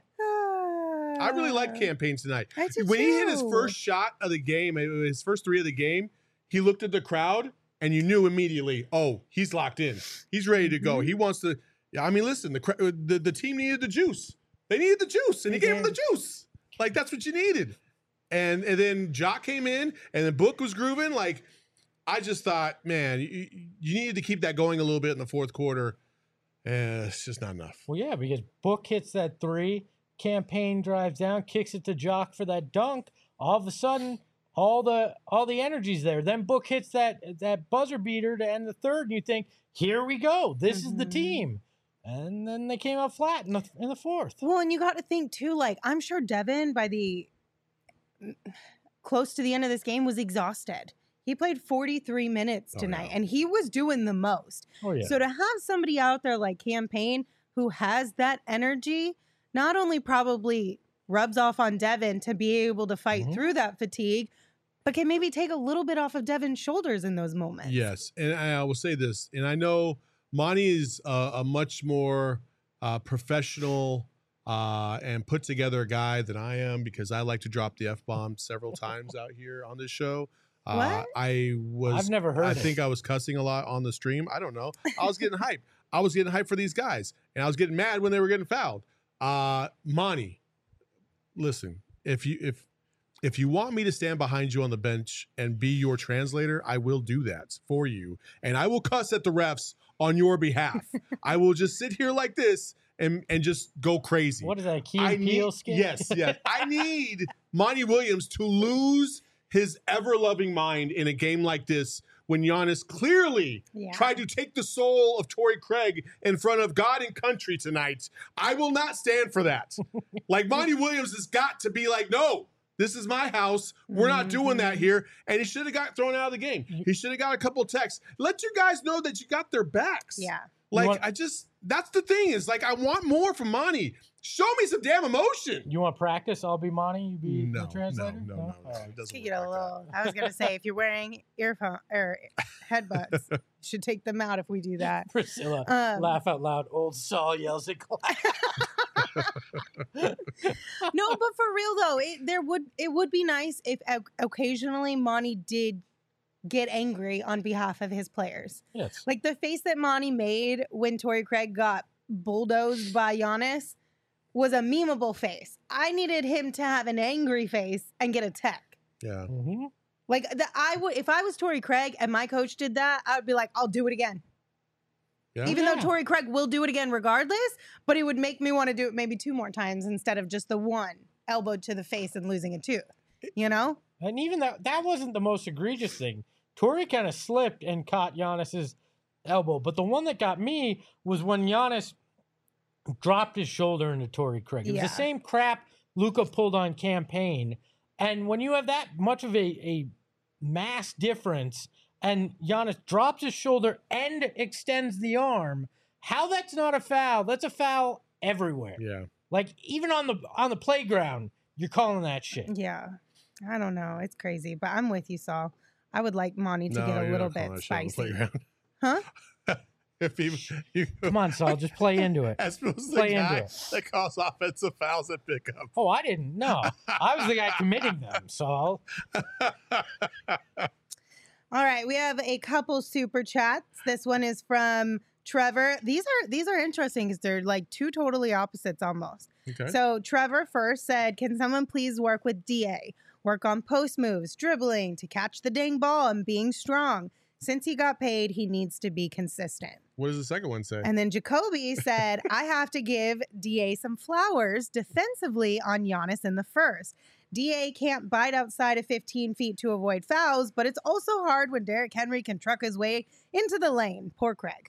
Speaker 3: I really like Campaign tonight.
Speaker 1: I do
Speaker 3: When he hit his
Speaker 1: too.
Speaker 3: first shot of the game, uh, his first three of the game, he looked at the crowd and you knew immediately, oh, he's locked in. He's ready to go.
Speaker 1: Mhm.
Speaker 3: He wants to. Yeah, I mean, listen, the, cra- uh, the the team needed the juice. They needed the juice, and he
Speaker 1: They
Speaker 3: gave him the
Speaker 1: did.
Speaker 3: juice. Like that's what you needed. And and then Jock came in, and the Book was grooving. Like I just thought, man, you, you needed to keep that going a little bit in the fourth quarter. Eh, it's just not enough.
Speaker 2: Well, yeah, because Book hits that three, Campaign drives down, kicks it to Jock for that dunk. All of a sudden, all the all the energy's there. Then Book hits that that buzzer beater to end the third, and you think, here we go. This is the
Speaker 1: Mhm.
Speaker 2: team. And then they came out flat in the in the fourth.
Speaker 1: Well, and you got to think too, like, I'm sure Devin, by the close to the end of this game, was exhausted. He played forty-three minutes
Speaker 3: Oh,
Speaker 1: tonight,
Speaker 3: yeah.
Speaker 1: and he was doing the most.
Speaker 2: Oh yeah.
Speaker 1: So to have somebody out there like Campaign who has that energy, not only probably rubs off on Devin to be able to fight
Speaker 2: Mhm.
Speaker 1: through that fatigue, but can maybe take a little bit off of Devin's shoulders in those moments.
Speaker 3: Yes, and I will say this, and I know Monty is a, a much more uh, professional uh, and put together guy than I am because I like to drop the f bomb several times out here on this show. Uh,
Speaker 1: What?
Speaker 3: I was.
Speaker 2: I've never heard
Speaker 3: I
Speaker 2: it.
Speaker 3: think I was cussing a lot on the stream. I don't know. I was getting hyped. I was getting hyped for these guys, and I was getting mad when they were getting fouled. Uh, Monty, listen, if you if if you want me to stand behind you on the bench and be your translator, I will do that for you, and I will cuss at the refs on your behalf. I will just sit here like this and and just go crazy.
Speaker 2: What is that, Key
Speaker 3: I
Speaker 2: and Peele
Speaker 3: need,
Speaker 2: skit?
Speaker 3: yes, yes. I need Monty Williams to lose his ever-loving mind in a game like this when Giannis clearly
Speaker 1: Yeah.
Speaker 3: tried to take the soul of Torrey Craig in front of God and country tonight. I will not stand for that. Like, Monty Williams has got to be like, no, this is my house. We're not doing that
Speaker 1: Mhm.
Speaker 3: here. And he should have got thrown out of the game. He should have got a couple of texts. Let you guys know that you got their backs.
Speaker 1: Yeah.
Speaker 3: Like,
Speaker 2: want-
Speaker 3: I just, that's the thing is, like, I want more from Monty. Show me some damn emotion.
Speaker 2: You want practice? I'll be Monty. You be
Speaker 3: No,
Speaker 2: the
Speaker 3: no,
Speaker 2: translator.
Speaker 3: no, no, no.
Speaker 2: All right.
Speaker 3: It doesn't
Speaker 1: To
Speaker 3: work
Speaker 1: get a
Speaker 3: like that.
Speaker 1: little, I was gonna say, if you're wearing earphone or headbuds, you should take them out if we do that.
Speaker 2: Priscilla,
Speaker 1: Um,
Speaker 2: laugh out loud. Old Saul yells at class.
Speaker 1: No, but for real though, it there would it would be nice if o- occasionally Monty did get angry on behalf of his players.
Speaker 2: Yes.
Speaker 1: Like the face that Monty made when Torrey Craig got bulldozed by Giannis was a memeable face. I needed him to have an angry face and get a tech.
Speaker 3: Yeah.
Speaker 2: Mhm.
Speaker 1: Like the, I would, if I was Torrey Craig and my coach did that, I would be like, I'll do it again.
Speaker 3: Yeah.
Speaker 1: Even
Speaker 2: Yeah.
Speaker 1: though Torrey Craig will do it again regardless, but it would make me want to do it maybe two more times instead of just the one elbow to the face and losing a tooth. You know?
Speaker 2: And even that that wasn't the most egregious thing. Torrey kind of slipped and caught Giannis's elbow, but the one that got me was when Giannis dropped his shoulder into Torrey Craig. It was
Speaker 1: Yeah.
Speaker 2: the same crap Luka pulled on Campaign, and when you have that much of a, a mass difference, and Giannis drops his shoulder and extends the arm, how that's not a foul? That's a foul everywhere.
Speaker 3: Yeah.
Speaker 2: Like even on the on the playground, you're calling that shit.
Speaker 1: Yeah. I don't know. It's crazy, but I'm with you, Saul. I would like Monty to
Speaker 3: No,
Speaker 1: get a
Speaker 3: you're
Speaker 1: little
Speaker 3: not calling
Speaker 1: bit
Speaker 3: that shit on the
Speaker 1: spicy.
Speaker 3: playground.
Speaker 1: Huh?
Speaker 3: If he, you,
Speaker 2: Come on, Saul, just play into it.
Speaker 3: as opposed to the
Speaker 2: Play into
Speaker 3: guy
Speaker 2: it.
Speaker 3: that calls offensive fouls at pickup.
Speaker 2: Oh, I didn't know. I was the guy committing them, Saul.
Speaker 1: All right, we have a couple super chats. This one is from Trevor. These are these are interesting because they're like two totally opposites almost.
Speaker 3: Okay.
Speaker 1: So Trevor first said, "Can someone please work with D A? Work on post moves, dribbling to catch the dang ball, and being strong. Since he got paid, he needs to be consistent."
Speaker 3: What does the second one say?
Speaker 1: And then Jacoby said, "I have to give D A some flowers defensively on Giannis in the first. D A can't bite outside of fifteen feet to avoid fouls, but it's also hard when Derrick Henry can truck his way into the lane." Poor Craig.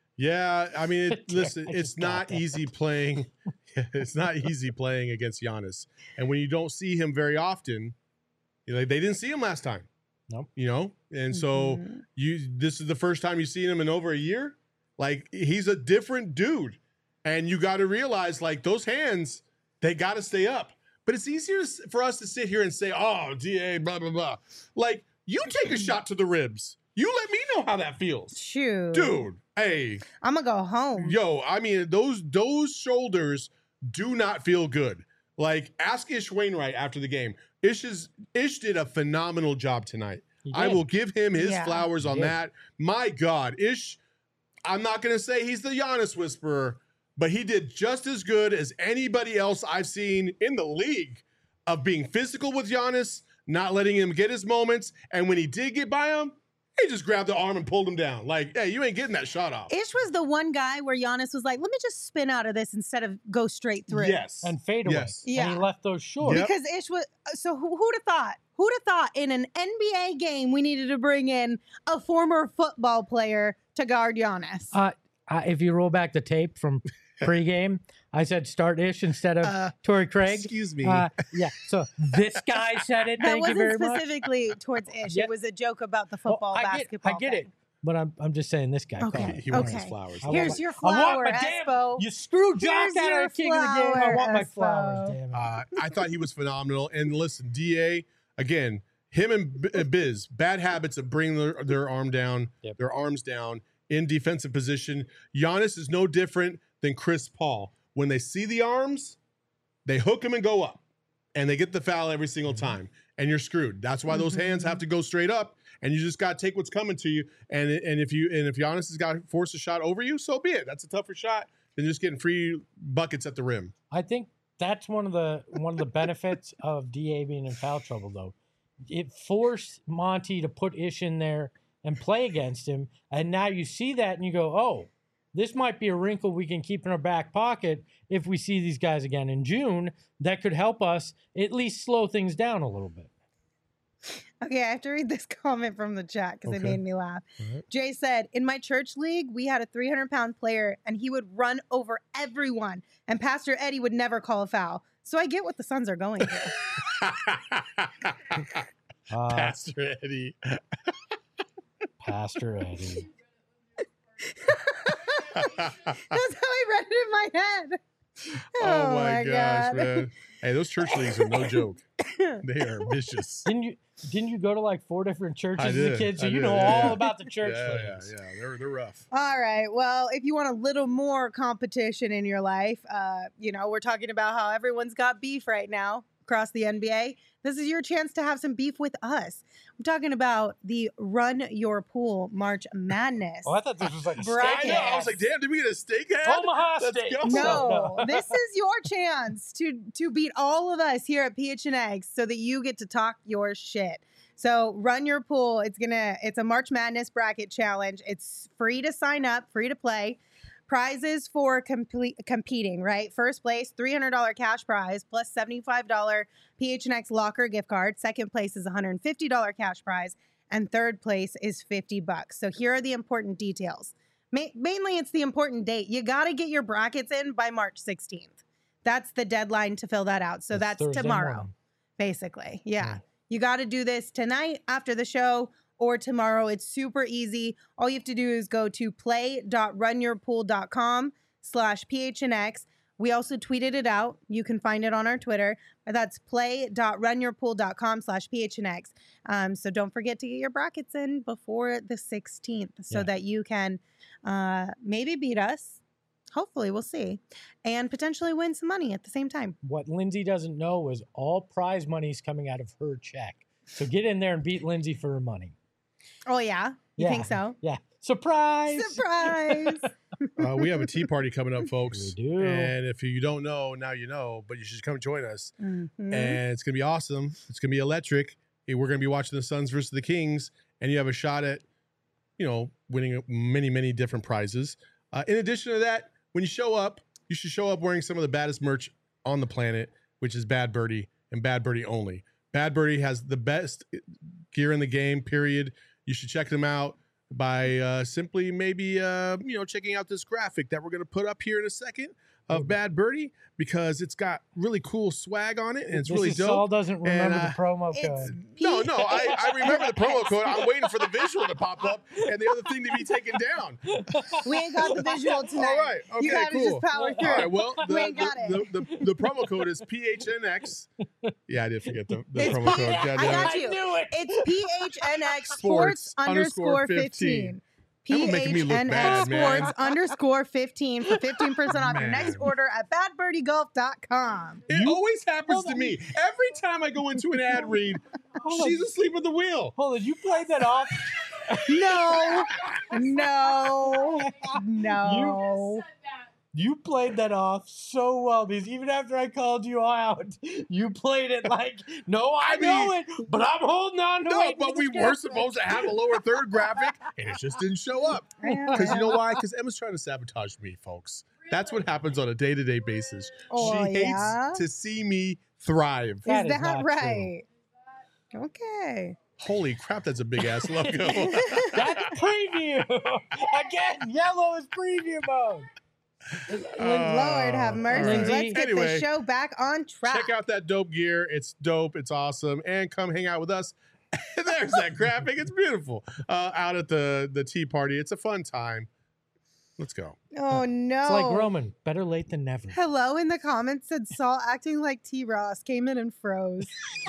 Speaker 3: Yeah, I mean, it,
Speaker 2: Yeah,
Speaker 3: listen,
Speaker 2: I
Speaker 3: it's
Speaker 2: just got
Speaker 3: not
Speaker 2: that.
Speaker 3: easy playing. It's not easy playing against Giannis, and when you don't see him very often, you know, they didn't see him last time.
Speaker 2: Nope.
Speaker 3: You know, and so
Speaker 1: Mhm.
Speaker 3: you this is the first time you've seen him in over a year. Like he's a different dude, and you got to realize like those hands, they got to stay up. But it's easier s- for us to sit here and say, "Oh, D A, blah blah blah." Like you take a shot to the ribs. You let me know how that feels,
Speaker 1: Shoot.
Speaker 3: dude. Hey,
Speaker 1: I'm going to go home.
Speaker 3: yo, I mean those those shoulders do not feel good. Like ask Ish Wainwright after the game. Ish is Ish did a phenomenal job tonight.
Speaker 2: He
Speaker 3: I
Speaker 2: did.
Speaker 3: will give him his
Speaker 1: Yeah.
Speaker 3: flowers
Speaker 2: He
Speaker 3: on
Speaker 2: did.
Speaker 3: that. My God, Ish, I'm not going to say he's the Giannis whisperer, but he did just as good as anybody else I've seen in the league of being physical with Giannis, not letting him get his moments. And when he did get by him, he just grabbed the arm and pulled him down. Like, hey, you ain't getting that shot off.
Speaker 1: Ish was the one guy where Giannis was like, "Let me just spin out of this instead of go straight through."
Speaker 3: Yes.
Speaker 2: and fade away.
Speaker 3: Yes.
Speaker 2: And
Speaker 1: Yeah.
Speaker 2: he left those short.
Speaker 3: Yep.
Speaker 1: Because Ish was so who, who'd have thought? Who'd have thought in an N B A game we needed to bring in a former football player to guard Giannis?
Speaker 2: Uh, uh, if you roll back the tape from pregame, I said start Ish instead of
Speaker 3: Uh,
Speaker 2: Torrey Craig.
Speaker 3: Excuse me.
Speaker 2: Uh, yeah. So this guy said it.
Speaker 1: that
Speaker 2: Thank you
Speaker 1: wasn't
Speaker 2: very much.
Speaker 1: specifically towards Ish.
Speaker 2: Yeah.
Speaker 1: It was a joke about the
Speaker 2: Well,
Speaker 1: football
Speaker 2: I get,
Speaker 1: basketball.
Speaker 2: I get
Speaker 1: thing.
Speaker 2: it, but I'm I'm just saying this guy.
Speaker 1: Okay.
Speaker 2: called
Speaker 3: he
Speaker 2: it.
Speaker 3: he wants his
Speaker 1: okay.
Speaker 3: flowers.
Speaker 2: I want
Speaker 1: Here's
Speaker 2: my-
Speaker 1: your
Speaker 2: I want
Speaker 1: flower,
Speaker 2: my damn-
Speaker 1: Espo.
Speaker 2: You screw Jock
Speaker 1: Here's
Speaker 2: out
Speaker 1: your
Speaker 2: of the king of the game. I
Speaker 1: flower,
Speaker 2: want my
Speaker 1: Espo.
Speaker 2: flowers. Damn it.
Speaker 3: Uh, I thought he was phenomenal. And listen, D A, again, him and B- uh, Biz, bad habits of bringing their, their arm down,
Speaker 2: Yep.
Speaker 3: their arms down in defensive position. Giannis is no different than Chris Paul. When they see the arms, they hook him and go up, and they get the foul every single
Speaker 2: Mm-hmm.
Speaker 3: time, and you're screwed. That's why those hands
Speaker 1: Mhm.
Speaker 3: have to go straight up, and you just got to take what's coming to you. And and if you and if Giannis has got to force a shot over you, so be it. That's a tougher shot than just getting free buckets at the rim.
Speaker 2: I think that's one of the one of the benefits of D A being in foul trouble, though. It forced Monty to put Ish in there and play against him, and now you see that and you go, "Oh, this might be a wrinkle we can keep in our back pocket if we see these guys again in June. That could help us at least slow things down a little bit."
Speaker 1: Okay, I have to read this comment from the chat because it
Speaker 3: Okay.
Speaker 1: made me laugh.
Speaker 3: All right.
Speaker 1: Jay said, "In my church league, we had a three hundred pound player and he would run over everyone, and Pastor Eddie would never call a foul. So I get what the Suns are going through."
Speaker 2: Uh,
Speaker 3: Pastor Eddie.
Speaker 2: Pastor Eddie.
Speaker 1: That's how I read it in my head.
Speaker 3: Oh, my, gosh,
Speaker 1: God.
Speaker 3: man. Hey, those church leagues are no joke. They are vicious.
Speaker 2: Didn't you didn't you go to like four different churches
Speaker 3: I
Speaker 2: as a
Speaker 3: did,
Speaker 2: kid? So
Speaker 3: I
Speaker 2: you
Speaker 3: did,
Speaker 2: know
Speaker 3: yeah,
Speaker 2: all
Speaker 3: yeah.
Speaker 2: about the church
Speaker 3: yeah, yeah,
Speaker 2: leagues.
Speaker 3: yeah. They're, they're rough.
Speaker 1: All right. Well, if you want a little more competition in your life, uh, you know, we're talking about how everyone's got beef right now across the N B A. This is your chance to have some beef with us. I'm talking about the Run Your Pool March Madness.
Speaker 2: Oh, I thought this was like a
Speaker 3: I
Speaker 1: Bracket.
Speaker 2: steak
Speaker 3: know. I was
Speaker 2: ass.
Speaker 3: like, damn, did we get a steak ad?
Speaker 2: Omaha
Speaker 3: Let's
Speaker 2: steak.
Speaker 3: go.
Speaker 1: No, this is your chance to to beat all of us here at P H N X so that you get to talk your shit. So run your pool. It's gonna. It's a March Madness bracket challenge. It's free to sign up, free to play. Prizes for complete, competing, right? First place, three hundred dollars cash prize plus seventy-five dollars P H N X locker gift card. Second place is one hundred fifty dollars cash prize. And third place is fifty bucks. So here are the important details. Ma- mainly, it's the important date. You got to get your brackets in by March sixteenth. That's the deadline to fill that out. So that's,
Speaker 2: Thursday
Speaker 1: tomorrow,
Speaker 2: morning.
Speaker 1: basically. Yeah.
Speaker 2: Yeah.
Speaker 1: You got to do this tonight after the show or tomorrow. It's super easy. All you have to do is go to play.runyourpool.com slash PHNX. We also tweeted it out. You can find it on our Twitter. That's play.runyourpool.com slash PHNX. Um, so don't forget to get your brackets in before the sixteenth so
Speaker 2: Yeah.
Speaker 1: that you can uh, maybe beat us. Hopefully, we'll see. And potentially win some money at the same time.
Speaker 2: What Lindsay doesn't know is all prize money is coming out of her check. So get in there and beat Lindsay for her money.
Speaker 1: Oh, yeah? You
Speaker 2: Yeah.
Speaker 1: think so?
Speaker 2: Yeah. Surprise!
Speaker 1: Surprise!
Speaker 3: Uh, we have a tea party coming up, folks.
Speaker 2: We do.
Speaker 3: And if you don't know, now you know, but you should come join us.
Speaker 1: Mhm.
Speaker 3: And it's going to be awesome. It's going to be electric. We're going to be watching the Suns versus the Kings, and you have a shot at, you know, winning many, many different prizes. Uh, in addition to that, when you show up, you should show up wearing some of the baddest merch on the planet, which is Bad Birdie and Bad Birdie only. Bad Birdie has the best gear in the game, period. You should check them out by uh, simply maybe, uh, you know, checking out this graphic that we're going to put up here in a second of Bad Birdie, because it's got really cool swag on it, and it's
Speaker 2: this
Speaker 3: really
Speaker 2: is
Speaker 3: dope.
Speaker 2: Saul doesn't remember
Speaker 3: uh,
Speaker 2: the promo
Speaker 1: It's
Speaker 2: code.
Speaker 3: No, no, I, I remember the promo code. I'm waiting for the visual to pop up and the other thing to be taken down.
Speaker 1: We ain't got the visual tonight.
Speaker 3: All right, okay,
Speaker 1: you gotta
Speaker 3: cool.
Speaker 1: just power through.
Speaker 3: All right, well, the,
Speaker 1: We ain't got
Speaker 3: the,
Speaker 1: it.
Speaker 3: the, the, the promo code is P H N X. Yeah, I did forget the, the
Speaker 1: It's
Speaker 3: promo
Speaker 1: P-
Speaker 3: code.
Speaker 1: I
Speaker 3: God damn
Speaker 1: got
Speaker 3: it.
Speaker 1: you.
Speaker 2: I knew it.
Speaker 1: It's P H N X
Speaker 3: Sports
Speaker 1: Sports underscore
Speaker 3: underscore
Speaker 1: fifteen.
Speaker 3: Y'all making me look bad, man.
Speaker 1: Sports underscore fifteen for fifteen percent off your
Speaker 3: Man.
Speaker 1: next order at bad birdie golf dot com.
Speaker 3: It
Speaker 2: You-
Speaker 3: always happens
Speaker 2: Hold
Speaker 3: to
Speaker 2: on.
Speaker 3: me. Every time I go into an ad read,
Speaker 2: Hold on.
Speaker 3: she's asleep at the wheel.
Speaker 2: Hold on, you played that off.
Speaker 1: No, no, no.
Speaker 2: You played that off so well, because even after I called you out, you played it like, no, I,
Speaker 3: I
Speaker 2: know
Speaker 3: mean-
Speaker 2: it, but I'm holding on to
Speaker 3: No,
Speaker 2: it.
Speaker 3: but we were supposed to have a lower third graphic, and it just didn't show up. Because you know why? Because Emma's trying to sabotage me, folks. That's what happens on a day-to-day basis.
Speaker 1: Oh,
Speaker 3: she hates
Speaker 1: yeah?
Speaker 3: to see me thrive.
Speaker 2: That
Speaker 1: Is
Speaker 2: is
Speaker 1: that
Speaker 2: not
Speaker 1: right? Okay.
Speaker 3: Holy crap, that's a big-ass logo.
Speaker 2: That's preview. Again, yellow is preview mode.
Speaker 1: Lord have mercy.
Speaker 2: Lindsay,
Speaker 1: Let's get
Speaker 3: anyway,
Speaker 1: the show back on track.
Speaker 3: Check out that dope gear. It's dope. It's awesome. And come hang out with us. There's that graphic. It's beautiful. Uh, out at the, the tea party. It's a fun time. Let's go.
Speaker 1: Oh, no.
Speaker 2: It's like Roman. Better late than never.
Speaker 1: Hello in the comments said Saul acting like T. Ross came in and froze.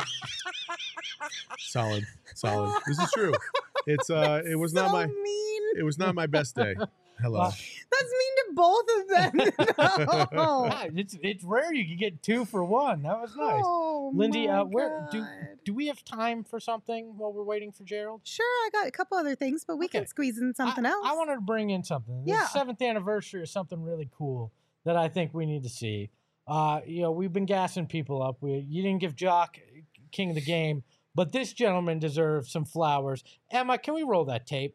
Speaker 3: Solid. Solid. This is true. It's uh it was
Speaker 1: so
Speaker 3: not my
Speaker 1: mean.
Speaker 3: it was not my best day. Hello.
Speaker 2: Well,
Speaker 1: That's mean to both of them. No.
Speaker 2: yeah, it's it's rare you can get two for one. That was nice.
Speaker 1: Oh,
Speaker 2: Lindy,
Speaker 1: my
Speaker 2: uh, where do
Speaker 1: God.
Speaker 2: do we have time for something while we're waiting for Gerald?
Speaker 1: Sure, I got a couple other things, but we
Speaker 2: Okay.
Speaker 1: can squeeze in something
Speaker 2: I,
Speaker 1: else.
Speaker 2: I wanted to bring in something.
Speaker 1: Yeah.
Speaker 2: The seventh anniversary is something really cool that I think we need to see. Uh, you know, we've been gassing people up. We you didn't give Jock king of the game, but this gentleman deserves some flowers. Emma, can we roll that tape?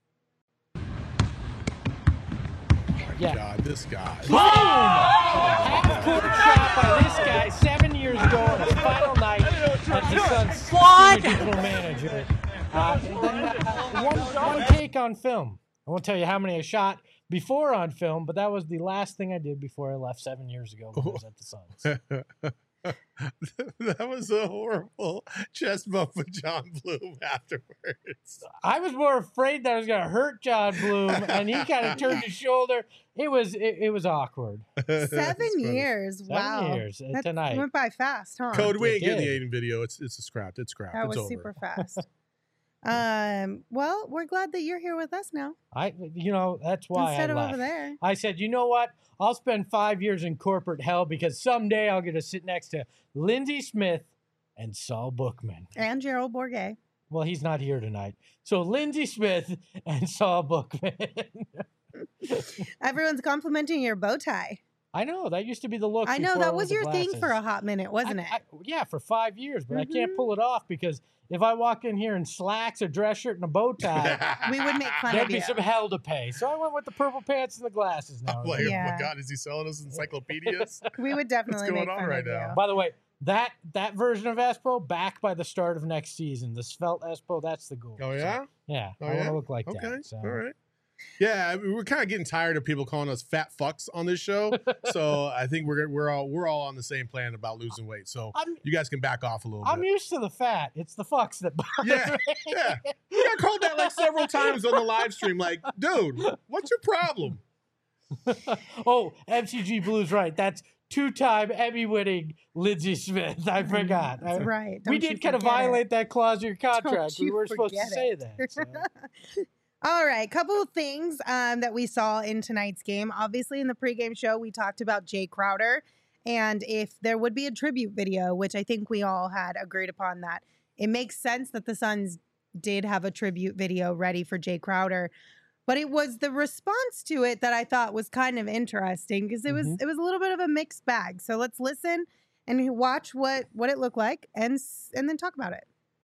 Speaker 2: Yeah.
Speaker 3: God, this guy.
Speaker 2: Boom! Half-court shot by this guy seven years ago on his final night as the Suns' senior general manager. Uh, and then, uh, one, one take on film. I won't tell you how many I shot before on film, but that was the last thing I did before I left seven years ago when I was at the Suns.
Speaker 3: That was a horrible chest bump with John Bloom afterwards.
Speaker 2: I was more afraid that I was going to hurt John Bloom, and he kind of turned his shoulder. It was it, it was awkward.
Speaker 1: Seven
Speaker 3: That's funny.
Speaker 1: years.
Speaker 2: Seven
Speaker 1: wow.
Speaker 2: years, uh,
Speaker 1: That
Speaker 2: tonight.
Speaker 1: went by fast, huh?
Speaker 3: Code, we
Speaker 2: It
Speaker 3: ain't getting the
Speaker 2: did.
Speaker 3: Aiden video. It's it's a scrap. It's scrap.
Speaker 1: That
Speaker 3: it's
Speaker 1: was
Speaker 3: over.
Speaker 1: super fast. um. Well, we're glad that you're here with us now
Speaker 2: I, you know, that's why
Speaker 1: instead
Speaker 2: I
Speaker 1: of
Speaker 2: left.
Speaker 1: over there.
Speaker 2: I said, you know what? I'll spend five years in corporate hell because someday I'll get to sit next to Lindsey Smith and Saul Bookman.
Speaker 1: And Gerald Bourget.
Speaker 2: Well, he's not here tonight. So Lindsey Smith and Saul Bookman.
Speaker 1: Everyone's complimenting your bow tie.
Speaker 2: I know that used to be the look.
Speaker 1: I know
Speaker 2: before I
Speaker 1: that
Speaker 2: wore
Speaker 1: was
Speaker 2: the
Speaker 1: your thing for a
Speaker 2: glasses.
Speaker 1: hot minute, wasn't
Speaker 2: I-
Speaker 1: it?
Speaker 2: I- yeah, for five years, but I can't
Speaker 1: Mhm.
Speaker 2: pull it off because if I walk in here in slacks, a dress shirt, and a bow tie,
Speaker 1: We would make fun
Speaker 2: there'd
Speaker 1: of
Speaker 2: be
Speaker 1: you.
Speaker 2: some hell to pay. So I went with the purple pants and the glasses now.
Speaker 3: I'm like, oh
Speaker 1: Yeah.
Speaker 3: my God, is he selling us encyclopedias?
Speaker 1: We would definitely
Speaker 3: going
Speaker 1: make
Speaker 3: on
Speaker 1: fun
Speaker 3: right
Speaker 1: of
Speaker 3: now?
Speaker 1: you.
Speaker 2: By the way, that that version of Espo back by the start of next season. The svelte Espo, that's the goal.
Speaker 3: Oh,
Speaker 2: So,
Speaker 3: yeah?
Speaker 2: yeah,
Speaker 3: Oh,
Speaker 2: I want
Speaker 3: yeah?
Speaker 2: to look like
Speaker 3: Okay.
Speaker 2: that. So.
Speaker 3: All right. Yeah, I mean, we're kind of getting tired of people calling us fat fucks on this show. So I think we're we're all we're all on the same plan about losing weight. So
Speaker 2: I'm
Speaker 3: you guys can back off a little
Speaker 2: I'm
Speaker 3: bit.
Speaker 2: used to the fat. It's the fucks that bother
Speaker 3: Yeah,
Speaker 2: me.
Speaker 3: yeah. We got called that like several times on the live stream. Like, dude, what's your problem?
Speaker 2: Oh, M C G Blues, right? That's two-time Emmy-winning Lindsay Smith. I forgot.
Speaker 1: That's
Speaker 2: I-
Speaker 1: right.
Speaker 2: we
Speaker 1: Don't you
Speaker 2: did kind of
Speaker 1: forget it.
Speaker 2: violate that clause in your contract. We
Speaker 1: you
Speaker 2: were supposed to
Speaker 1: forget
Speaker 2: say
Speaker 1: it.
Speaker 2: that. so.
Speaker 1: All right, couple of things um, that we saw in tonight's game. Obviously, in the pregame show, we talked about Jay Crowder and if there would be a tribute video, which I think we all had agreed upon that. It makes sense that the Suns did have a tribute video ready for Jay Crowder, but it was the response to it that I thought was kind of interesting because it was
Speaker 2: Mhm.
Speaker 1: it was a little bit of a mixed bag. So let's listen and watch what what it looked like and s- and then talk about it.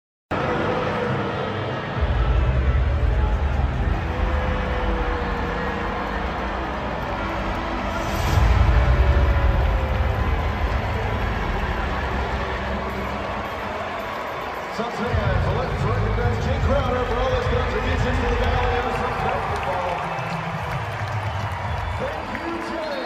Speaker 5: Suns fans, let's recognize Jay Crowder for all his contributions to the Valley of Suns basketball. Thank you,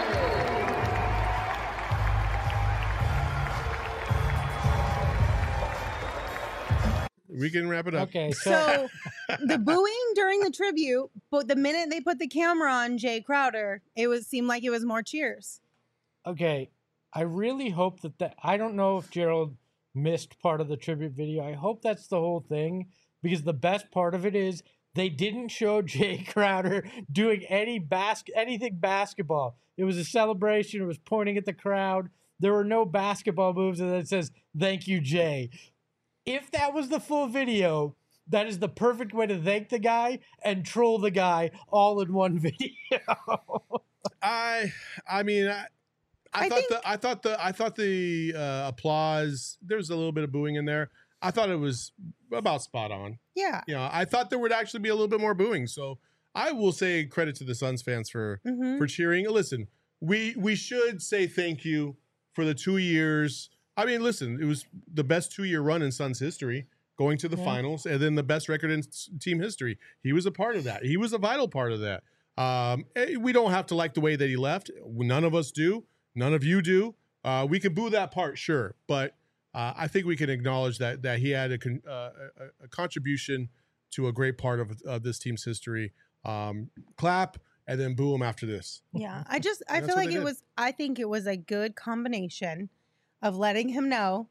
Speaker 5: Jay.
Speaker 3: We can wrap it up.
Speaker 2: Okay, so,
Speaker 1: So the booing during the tribute, but the minute they put the camera on Jay Crowder, it was seemed like it was more cheers.
Speaker 2: okay, I really hope that that I don't know if Gerald missed part of the tribute video. I hope that's the whole thing because the best part of it is they didn't show Jay Crowder doing any bas- anything basketball. It was a celebration. It was pointing at the crowd. There were no basketball moves, and then it says, "Thank you, Jay." If that was the full video, that is the perfect way to thank the guy and troll the guy all in one video.
Speaker 3: I, I mean, I, I,
Speaker 1: I
Speaker 3: thought
Speaker 1: think-
Speaker 3: the, I thought the, I thought the uh, applause. There was a little bit of booing in there. I thought it was about spot on.
Speaker 1: Yeah.
Speaker 3: You know, I thought there would actually be a little bit more booing. So I will say credit to the Suns fans for
Speaker 1: hmm
Speaker 3: for cheering. Listen, we we should say thank you for the two years. I mean, listen, it was the best two year run in Suns history, going to the
Speaker 2: Yeah.
Speaker 3: finals, and then the best record in s- team history. He was a part of that. He was a vital part of that. Um, eh, we don't have to like the way that he left. None of us do. None of you do. Uh, we can boo that part, sure, but uh, I think we can acknowledge that that he had a, con- uh, a, a contribution to a great part of, of this team's history. Um, clap and then boo him after this.
Speaker 1: Yeah. I just I
Speaker 3: That's
Speaker 1: feel
Speaker 3: what
Speaker 1: like
Speaker 3: they
Speaker 1: it
Speaker 3: did.
Speaker 1: was I think it was a good combination of letting him know,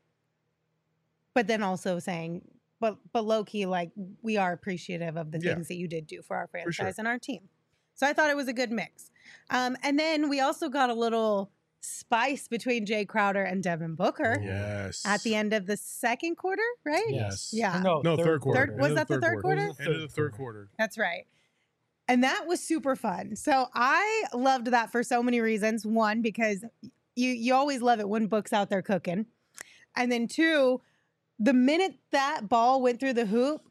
Speaker 1: but then also saying, but but low key, like we are appreciative of the
Speaker 3: Yeah.
Speaker 1: things that you did do for our
Speaker 3: For sure.
Speaker 1: franchise and our team. So I thought it was a good mix. Um, and then we also got a little spice between Jay Crowder and Devin Booker
Speaker 3: Yes.
Speaker 1: at the end of the second quarter, right?
Speaker 3: Yes.
Speaker 1: Yeah.
Speaker 2: No,
Speaker 3: No, third quarter.
Speaker 1: Third- was
Speaker 3: End of
Speaker 1: that the third quarter?
Speaker 2: It was the
Speaker 3: End of the third quarter.
Speaker 1: That's right. And that was super fun. So I loved that for so many reasons. One, because you you always love it when Book's out there cooking. And then two, the minute that ball went through the hoop,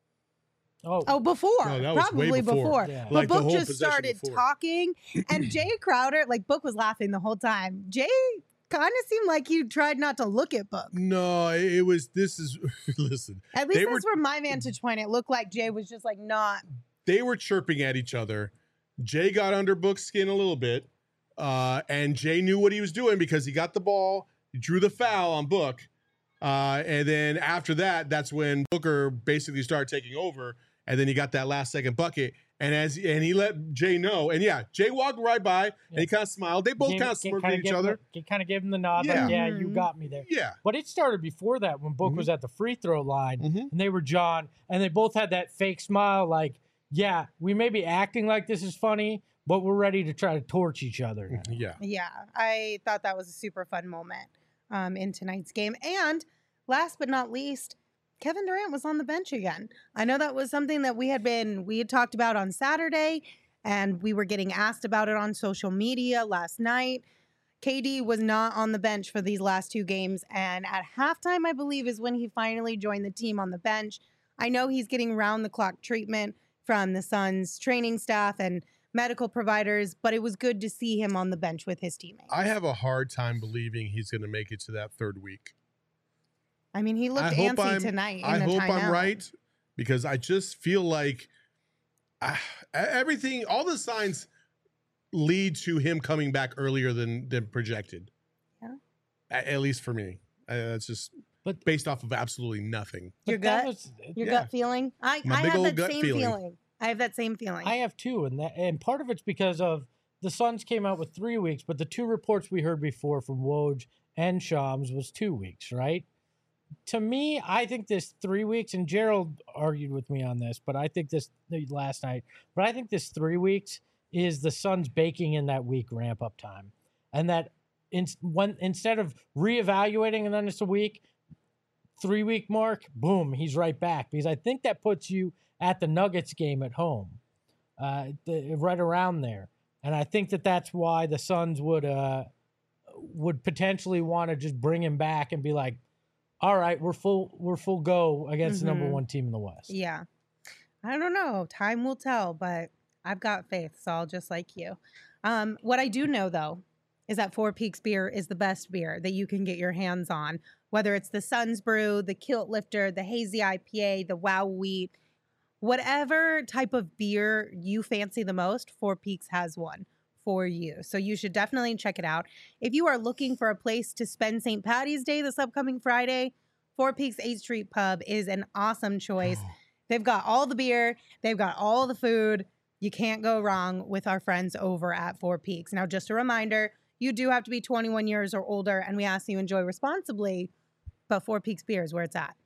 Speaker 2: Oh,
Speaker 1: oh, before,
Speaker 3: No, that was way
Speaker 1: probably
Speaker 3: before.
Speaker 1: before.
Speaker 2: Yeah.
Speaker 1: But
Speaker 3: Like the
Speaker 1: Book
Speaker 3: whole
Speaker 1: just
Speaker 3: possession
Speaker 1: started
Speaker 3: before.
Speaker 1: talking. And Jay Crowder, like Book was laughing the whole time. Jay kind of seemed like he tried not to look at Book.
Speaker 3: No, it it was. This is listen.
Speaker 1: At least
Speaker 3: They
Speaker 1: that's
Speaker 3: were-
Speaker 1: from my vantage point. It looked like Jay was just like not.
Speaker 3: They were chirping at each other. Jay got under Book's skin a little bit, uh, and Jay knew what he was doing because he got the ball, he drew the foul on Book, uh, and then after that, that's when Booker basically started taking over, and then he got that last second bucket, and as and he let Jay know, and yeah, Jay walked right by, and he kind of smiled. They both
Speaker 2: Gave-
Speaker 3: kind of
Speaker 2: gave-
Speaker 3: smirked
Speaker 2: kinda
Speaker 3: at each
Speaker 2: gave him
Speaker 3: other.
Speaker 2: the- kind of gave him the nod.
Speaker 3: Yeah.
Speaker 2: Like, yeah, you
Speaker 1: Mhm.
Speaker 2: got me there.
Speaker 3: Yeah.
Speaker 2: But it started before that when Book
Speaker 3: Mhm.
Speaker 2: was at the free throw line
Speaker 3: Mhm.
Speaker 2: and they were John and they both had that fake smile like, yeah, we may be acting like this is funny, but we're ready to try to torch each other. now.
Speaker 3: Yeah.
Speaker 1: Yeah, I thought that was a super fun moment um, in tonight's game. And last but not least, Kevin Durant was on the bench again. I know that was something that we had been we had talked about on Saturday, and we were getting asked about it on social media last night. K D was not on the bench for these last two games, and at halftime, I believe, is when he finally joined the team on the bench. I know he's getting round-the-clock treatment from the Suns training staff and medical providers, but it was good to see him on the bench with his teammates.
Speaker 3: I have a hard time believing he's going to make it to that third week.
Speaker 1: I mean, he looked
Speaker 3: I hope
Speaker 1: antsy
Speaker 3: I'm,
Speaker 1: tonight. In
Speaker 3: I
Speaker 1: the
Speaker 3: hope
Speaker 1: timeout.
Speaker 3: I'm right, because I just feel like uh, everything, all the signs lead to him coming back earlier than than projected.
Speaker 1: Yeah.
Speaker 3: At, at least for me. Uh, that's just
Speaker 2: But-
Speaker 3: based off of absolutely nothing.
Speaker 1: Your
Speaker 2: But that
Speaker 1: gut?
Speaker 2: was-
Speaker 1: Your
Speaker 3: Yeah.
Speaker 1: gut feeling? I,
Speaker 3: My
Speaker 1: I
Speaker 3: big
Speaker 1: have
Speaker 3: old
Speaker 1: that
Speaker 3: gut
Speaker 1: same
Speaker 3: feeling.
Speaker 1: feeling. I have that same feeling.
Speaker 2: I have two, and that and part of it's because of the Suns came out with three weeks, but the two reports we heard before from Woj and Shams was two weeks, right? To me, I think this three weeks, and Gerald argued with me on this, but I think this last night, but I think this three weeks is the Suns baking in that week ramp up time, and that in, when instead of reevaluating and then it's a week, three week mark, boom, he's right back, because I think that puts you at the Nuggets game at home, uh, the, right around there. And I think that that's why the Suns would uh, would potentially want to just bring him back and be like, all right, we're full we're full go against the number
Speaker 1: Mhm.
Speaker 2: one team in the West.
Speaker 1: Yeah. I don't know. Time will tell, but I've got faith, so I'll just like you. Um, what I do know, though, is that Four Peaks beer is the best beer that you can get your hands on, whether it's the Suns Brew, the Kilt Lifter, the Hazy I P A, the Wow Wheat, whatever type of beer you fancy the most, Four Peaks has one for you. So you should definitely check it out. If you are looking for a place to spend Saint Patty's Day this upcoming Friday, Four Peaks eighth Street Pub is an awesome choice. They've got all the beer, they've got all the food. You can't go wrong with our friends over at Four Peaks. Now, just a reminder, you do have to be twenty-one years or older, and we ask you enjoy responsibly, but Four Peaks beer is where it's at.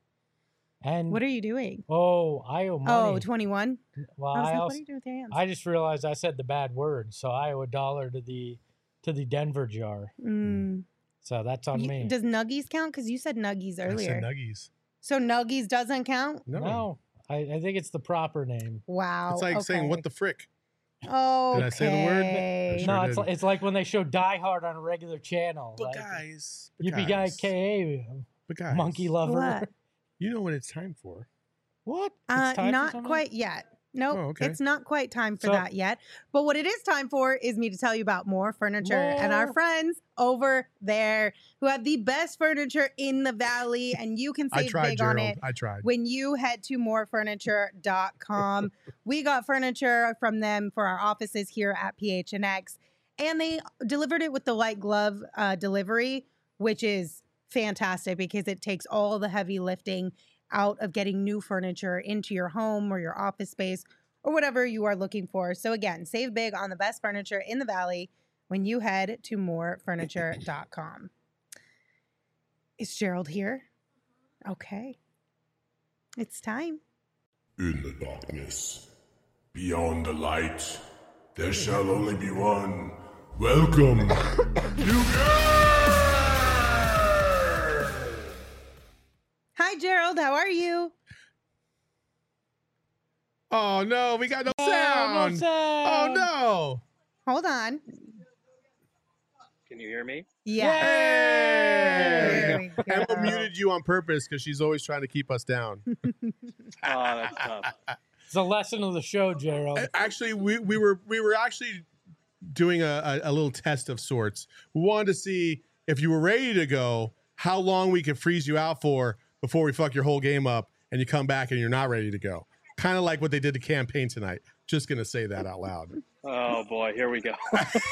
Speaker 2: And
Speaker 1: What are you doing?
Speaker 2: oh, I owe money.
Speaker 1: Oh, twenty-one?
Speaker 2: well,
Speaker 1: I was
Speaker 2: I
Speaker 1: like, what
Speaker 2: also
Speaker 1: are you doing with your hands?
Speaker 2: I just realized I said the bad word, so I owe a dollar to the to the Denver jar.
Speaker 1: Mm.
Speaker 2: So that's on
Speaker 1: You-
Speaker 2: me.
Speaker 1: Does Nuggies count? Because you said Nuggies
Speaker 3: I
Speaker 1: earlier.
Speaker 3: said Nuggies.
Speaker 1: So Nuggies doesn't count?
Speaker 3: No.
Speaker 2: No, I, I think it's the proper name.
Speaker 1: Wow.
Speaker 3: It's like saying, what the frick?
Speaker 1: Oh,
Speaker 3: Did I say the word? I sure
Speaker 2: no, it's
Speaker 3: did.
Speaker 2: like, it's like when they show Die Hard on a regular channel.
Speaker 3: But
Speaker 2: like,
Speaker 3: guys, but
Speaker 2: Yippee
Speaker 3: guys,
Speaker 2: K
Speaker 3: but guys,
Speaker 2: monkey lover.
Speaker 1: What?
Speaker 3: you know what it's time for.
Speaker 2: What? It's
Speaker 1: Uh,
Speaker 2: time for
Speaker 1: not
Speaker 2: something?
Speaker 1: quite yet. Nope,
Speaker 3: Oh, okay.
Speaker 1: it's not quite time for
Speaker 2: So-
Speaker 1: that yet. But what it is time for is me to tell you about More Furniture and our
Speaker 2: More.
Speaker 1: friends over there who have the best furniture in the valley, and you can
Speaker 3: I
Speaker 1: save
Speaker 3: tried,
Speaker 1: big on
Speaker 3: Gerald.
Speaker 1: it
Speaker 3: I tried.
Speaker 1: when you head to more furniture dot com. We got furniture from them for our offices here at P H N X, and they delivered it with the light glove uh, delivery, which is fantastic because it takes all the heavy lifting out of getting new furniture into your home or your office space or whatever you are looking for. So again, save big on the best furniture in the valley when you head to more furniture dot com. Is Gerald here? Okay. It's time.
Speaker 6: In the darkness, beyond the light, there shall only be one. Welcome,
Speaker 1: Hi, Gerald. How are you?
Speaker 3: Oh no, we got no
Speaker 2: Oh, no
Speaker 3: sound.
Speaker 2: sound.
Speaker 3: Oh no.
Speaker 1: Hold on.
Speaker 7: Can you hear me?
Speaker 1: Yeah.
Speaker 3: Hey!
Speaker 1: There we go.
Speaker 3: Emma muted you on purpose because she's always trying to keep us down.
Speaker 7: Oh, that's tough.
Speaker 2: It's a lesson of the show, Gerald.
Speaker 3: Actually, we, we were we were actually doing a, a, a little test of sorts. We wanted to see if you were ready to go, how long we could freeze you out for before we fuck your whole game up and you come back and you're not ready to go. Kind of like what they did to campaign tonight. Just gonna say that out loud.
Speaker 7: Oh boy, here we go.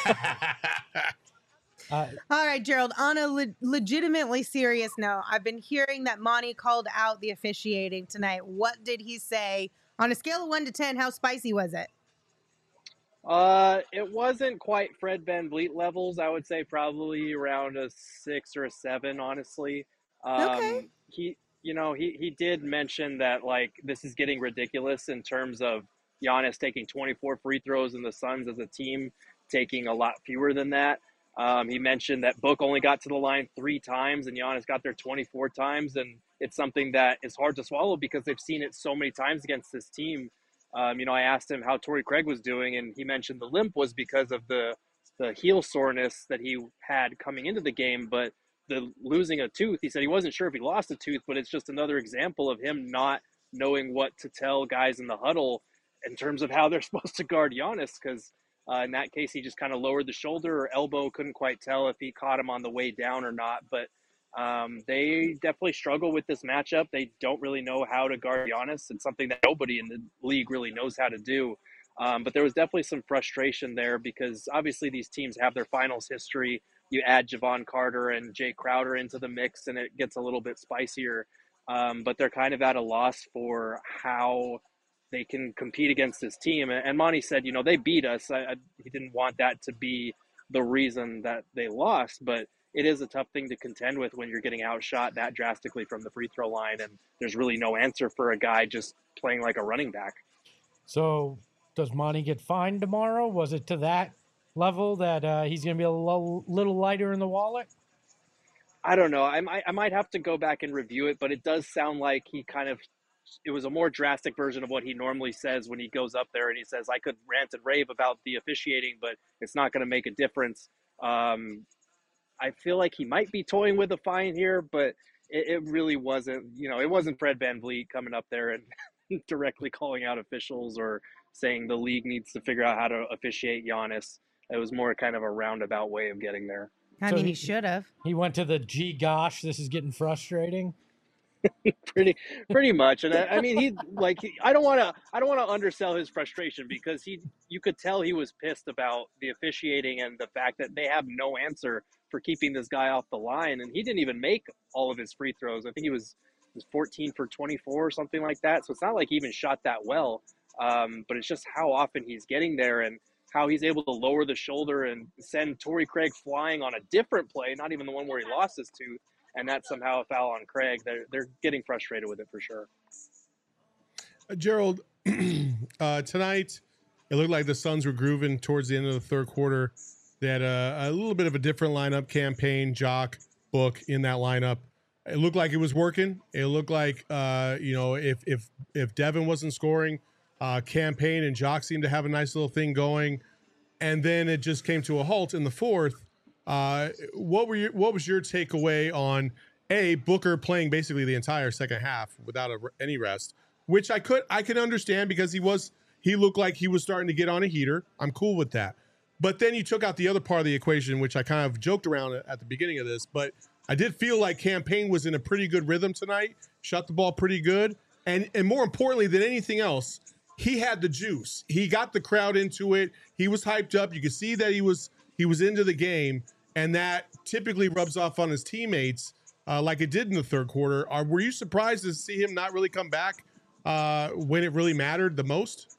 Speaker 2: Uh,
Speaker 1: All right, Gerald, on a le- legitimately serious note, I've been hearing that Monty called out the officiating tonight. What did he say? On a scale of one to ten, how spicy was it?
Speaker 7: Uh, it wasn't quite Fred VanVleet levels. I would say probably around a six or a seven, honestly. Um,
Speaker 1: Okay.
Speaker 7: He, you know, he, he did mention that, like, this is getting ridiculous in terms of Giannis taking twenty-four free throws and the Suns as a team taking a lot fewer than that. Um, he mentioned that Book only got to the line three times and Giannis got there twenty-four times. And it's something that is hard to swallow because they've seen it so many times against this team. Um, you know, I asked him how Torrey Craig was doing, and he mentioned the limp was because of the the heel soreness that he had coming into the game, but the losing a tooth, he said he wasn't sure if he lost a tooth, but it's just another example of him not knowing what to tell guys in the huddle in terms of how they're supposed to guard Giannis, because uh, in that case, he just kind of lowered the shoulder or elbow, couldn't quite tell if he caught him on the way down or not. But um, they definitely struggle with this matchup. They don't really know how to guard Giannis. It's something that nobody in the league really knows how to do. Um, but there was definitely some frustration there because obviously these teams have their finals history. You add Javon Carter and Jay Crowder into the mix and it gets a little bit spicier. Um, but they're kind of at a loss for how they can compete against this team. And Monty said, you know, they beat us. I, I, he didn't want that to be the reason that they lost, but it is a tough thing to contend with when you're getting outshot that drastically from the free throw line. And there's really no answer for a guy just playing like a running back.
Speaker 2: So does Monty get fined tomorrow? Was it to that level that uh, he's going to be a little, little lighter in the wallet?
Speaker 7: I don't know. I might, I might have to go back and review it, but it does sound like he kind of, it was a more drastic version of what he normally says when he goes up there and he says, I could rant and rave about the officiating, but it's not going to make a difference. Um, I feel like he might be toying with a fine here, but it, it really wasn't, you know, it wasn't Fred VanVleet coming up there and directly calling out officials or saying the league needs to figure out how to officiate Giannis. It was more kind of a roundabout way of getting there.
Speaker 1: I
Speaker 2: So
Speaker 1: mean,
Speaker 2: he-
Speaker 1: he should have.
Speaker 2: He went to the, gee, gosh, this is getting frustrating.
Speaker 7: pretty pretty much. And I, I mean, he like he, I don't want to I don't want to undersell his frustration because he you could tell he was pissed about the officiating and the fact that they have no answer for keeping this guy off the line, and he didn't even make all of his free throws. I think he was was fourteen for twenty-four or something like that, so it's not like he even shot that well. Um, but it's just how often he's getting there and how he's able to lower the shoulder and send Torrey Craig flying on a different play, not even the one where he lost his tooth, and that's somehow a foul on Craig. They're, they're getting frustrated with it for sure.
Speaker 3: Uh, Gerald, uh, tonight, it looked like the Suns were grooving towards the end of the third quarter. They had a, a little bit of a different lineup, Campaign, Jock, Book in that lineup. It looked like it was working. It looked like, uh, you know, if if if Devin wasn't scoring, uh, Campaign and Jock seemed to have a nice little thing going. And then it just came to a halt in the fourth. Uh, what were your, what was your takeaway on a Booker playing basically the entire second half without a, any rest, which I could I could understand because he was he looked like he was starting to get on a heater. I'm cool with that. But then you took out the other part of the equation, which I kind of joked around at the beginning of this, but I did feel like Campaign was in a pretty good rhythm tonight, shot the ball pretty good, and and more importantly than anything else, he had the juice. He got the crowd into it. He was hyped up. You could see that he was he was into the game, and that typically rubs off on his teammates uh, like it did in the third quarter. Are, were you surprised to see him not really come back uh, when it really mattered the most?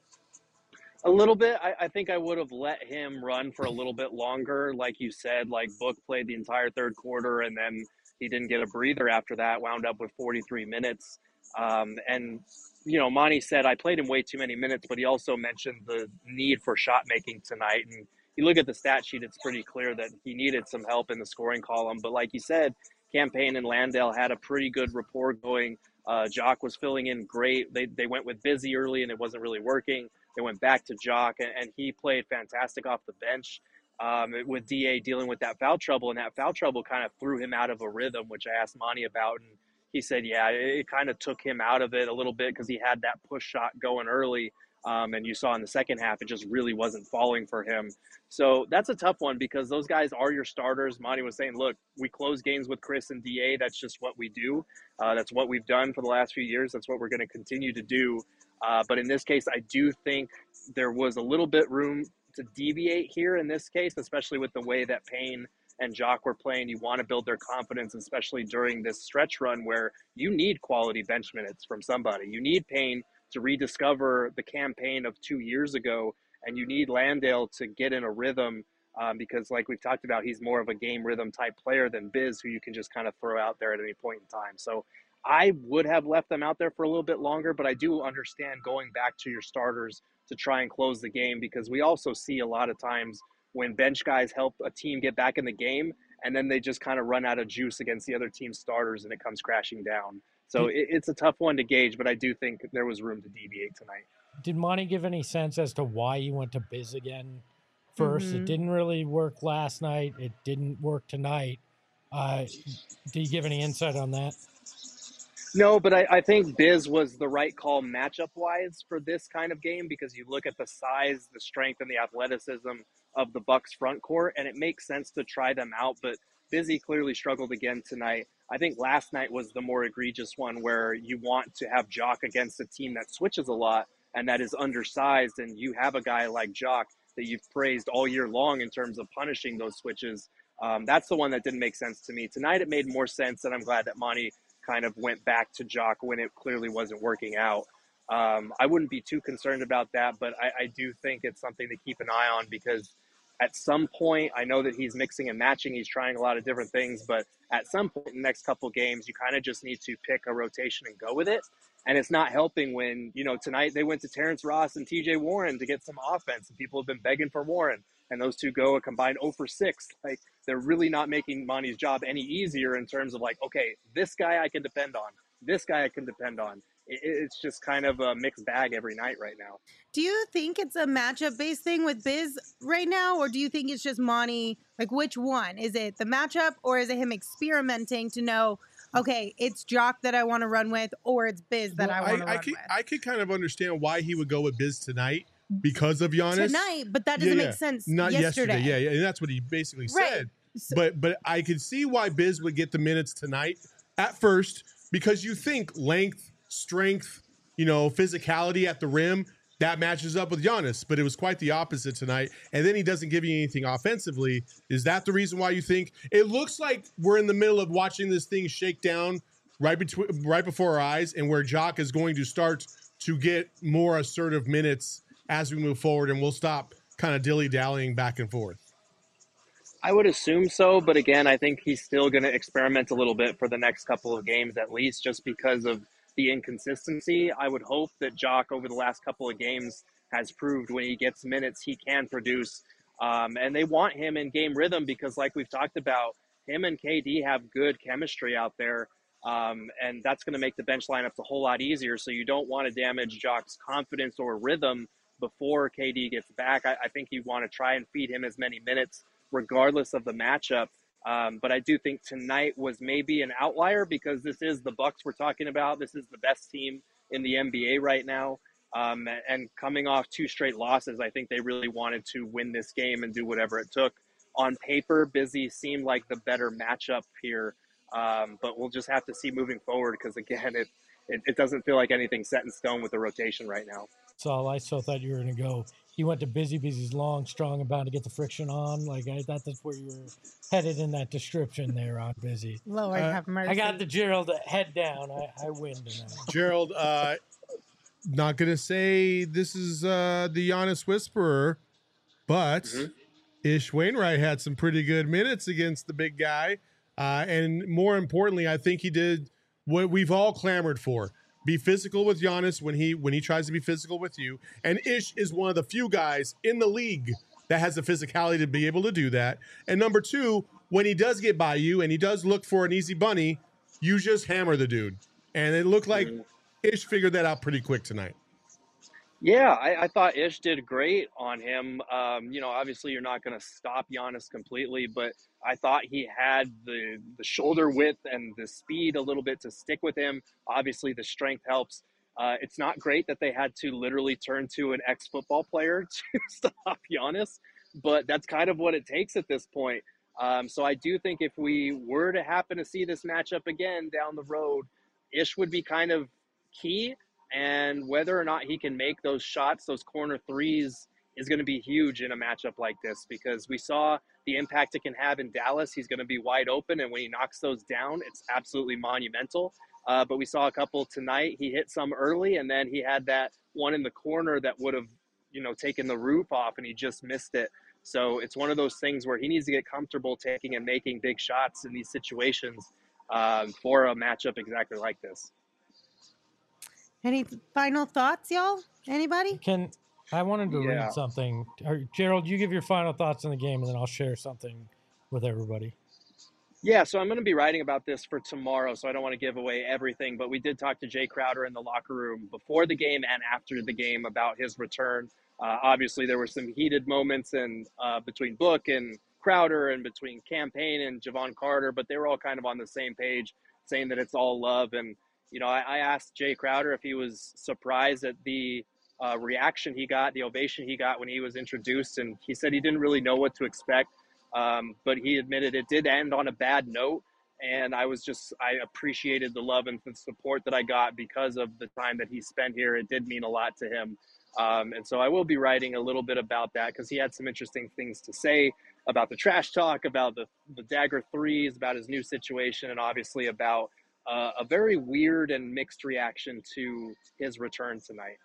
Speaker 7: A little bit. I, I think I would have let him run for a little bit longer. Like you said, like Book played the entire third quarter and then he didn't get a breather after that, wound up with forty-three minutes. Um, and, you know, Monty said, I played him way too many minutes, but he also mentioned the need for shot making tonight. And you look at the stat sheet, it's pretty clear that he needed some help in the scoring column. But like you said, Campaign and Landale had a pretty good rapport going. Uh, Jock was filling in great. They, they went with Busy early and it wasn't really working. They went back to Jock, and, and he played fantastic off the bench um, with D A dealing with that foul trouble. And that foul trouble kind of threw him out of a rhythm, which I asked Monty about. And he said, yeah, it, it kind of took him out of it a little bit because he had that push shot going early. Um, and you saw in the second half, it just really wasn't falling for him. So that's a tough one because those guys are your starters. Monty was saying, look, we close games with Chris and D A. That's just what we do. Uh, that's what we've done for the last few years. That's what we're going to continue to do. Uh, but in this case, I do think there was a little bit room to deviate here in this case, especially with the way that Payne and Jock were playing. You want to build their confidence, especially during this stretch run where you need quality bench minutes from somebody. You need Payne to rediscover the Campaign of two years ago, and you need Landale to get in a rhythm um, because like we've talked about, he's more of a game rhythm type player than Biz, who you can just kind of throw out there at any point in time. So I would have left them out there for a little bit longer, but I do understand going back to your starters to try and close the game because we also see a lot of times when bench guys help a team get back in the game and then they just kind of run out of juice against the other team's starters and it comes crashing down. So it, it's a tough one to gauge, but I do think there was room to deviate tonight.
Speaker 2: Did Monty give any sense as to why he went to Biz again first.
Speaker 1: Mhm.
Speaker 2: It didn't really work last night. It didn't work tonight. Uh, do you give any insight on that?
Speaker 7: No, but I, I think Biz was the right call matchup wise for this kind of game because you look at the size, the strength, and the athleticism of the Bucks front court, and it makes sense to try them out. But Busy clearly struggled again tonight. I think last night was the more egregious one where you want to have Jock against a team that switches a lot and that is undersized, and you have a guy like Jock that you've praised all year long in terms of punishing those switches. Um, that's the one that didn't make sense to me. Tonight it made more sense, and I'm glad that Monty kind of went back to Jock when it clearly wasn't working out. Um, I wouldn't be too concerned about that, but I, I do think it's something to keep an eye on because at some point, I know that he's mixing and matching, he's trying a lot of different things, but at some point in the next couple of games, you kind of just need to pick a rotation and go with it. And it's not helping when, you know, tonight they went to Terrence Ross and T J Warren to get some offense, and people have been begging for Warren, and those two go a combined zero for six. Like, they're really not making Monty's job any easier in terms of like, okay, this guy I can depend on, this guy I can depend on. It, it's just kind of a mixed bag every night right now.
Speaker 1: Do you think it's a matchup-based thing with Biz right now, or do you think it's just Monty? Like, which one? Is it the matchup, or is it him experimenting to know, okay, it's Jock that I want to run with, or it's Biz that
Speaker 3: Well,
Speaker 1: I want to
Speaker 3: I, I
Speaker 1: run
Speaker 3: could,
Speaker 1: with?
Speaker 3: I could kind of understand why he would go with Biz tonight because of Giannis.
Speaker 1: Tonight, but that doesn't
Speaker 3: Yeah,
Speaker 1: make
Speaker 3: yeah.
Speaker 1: sense
Speaker 3: Not
Speaker 1: yesterday.
Speaker 3: yesterday. Yeah, yeah, and that's what he basically
Speaker 1: Right.
Speaker 3: said.
Speaker 1: So-
Speaker 3: But but I could see why Biz would get the minutes tonight at first because you think length, strength, you know, physicality at the rim, that matches up with Giannis, but it was quite the opposite tonight. And then he doesn't give you anything offensively. Is that the reason why you think it looks like we're in the middle of watching this thing shake down right between right before our eyes, and where Jock is going to start to get more assertive minutes as we move forward, and we'll stop kind of dilly-dallying back and forth?
Speaker 7: I would assume so, but again, I think he's still going to experiment a little bit for the next couple of games at least, just because of the inconsistency. I would hope that Jock over the last couple of games has proved when he gets minutes, he can produce. Um, and they want him in game rhythm because like we've talked about, him and K D have good chemistry out there. Um, and that's going to make the bench lineups a whole lot easier. So you don't want to damage Jock's confidence or rhythm before K D gets back. I, I think you want to try and feed him as many minutes regardless of the matchup. Um, but I do think tonight was maybe an outlier because this is the Bucks we're talking about. This is the best team in the N B A right now. Um, and coming off two straight losses, I think they really wanted to win this game and do whatever it took. On paper, Busy seemed like the better matchup here. Um, but we'll just have to see moving forward because, again, it, it, it doesn't feel like anything's set in stone with the rotation right now.
Speaker 2: That's all. I so thought you were going to go. He went to Busy. Busy's long, strong, and bound to get the friction on. Like, I thought that's where you were headed in that description there on Busy.
Speaker 1: Lord
Speaker 3: Uh,
Speaker 1: have mercy.
Speaker 2: I got the Gerald head down. I, I win tonight.
Speaker 3: Gerald, uh, not going to say this is uh, the Giannis whisperer, but
Speaker 7: Mhm.
Speaker 3: Ish Wainwright had some pretty good minutes against the big guy. Uh, and more importantly, I think he did what we've all clamored for. Be physical with Giannis when he when he tries to be physical with you. And Ish is one of the few guys in the league that has the physicality to be able to do that. And number two, when he does get by you and he does look for an easy bunny, you just hammer the dude. And it looked like
Speaker 7: Mhm.
Speaker 3: Ish figured that out pretty quick tonight.
Speaker 7: Yeah, I, I thought Ish did great on him. Um, you know, obviously you're not going to stop Giannis completely, but I thought he had the the shoulder width and the speed a little bit to stick with him. Obviously, the strength helps. Uh, it's not great that they had to literally turn to an ex-football player to stop Giannis, but that's kind of what it takes at this point. Um, so I do think if we were to happen to see this matchup again down the road, Ish would be kind of key. And whether or not he can make those shots, those corner threes, is going to be huge in a matchup like this because we saw the impact it can have in Dallas. He's going to be wide open, and when he knocks those down, it's absolutely monumental. Uh, but we saw a couple tonight. He hit some early, and then he had that one in the corner that would have, you know, taken the roof off, and he just missed it. So it's one of those things where he needs to get comfortable taking and making big shots in these situations um, for a matchup exactly like this.
Speaker 1: Any final thoughts, y'all? Anybody?
Speaker 2: Can I wanted to
Speaker 7: Yeah.
Speaker 2: read something? Or, Gerald, you give your final thoughts on the game, and then I'll share something with everybody.
Speaker 7: Yeah, so I'm going to be writing about this for tomorrow, so I don't want to give away everything. But we did talk to Jay Crowder in the locker room before the game and after the game about his return. Uh, obviously, there were some heated moments in, uh, between Book and Crowder and between Campaign and Javon Carter, but they were all kind of on the same page, saying that it's all love. And, you know, I, I asked Jay Crowder if he was surprised at the uh, reaction he got, the ovation he got when he was introduced, and he said he didn't really know what to expect, um, but he admitted it did end on a bad note. And I was just, I appreciated the love and the support that I got because of the time that he spent here. It did mean a lot to him. Um, and so I will be writing a little bit about that because he had some interesting things to say about the trash talk, about the, the dagger threes, about his new situation, and obviously about uh, a very weird and mixed reaction to his return tonight.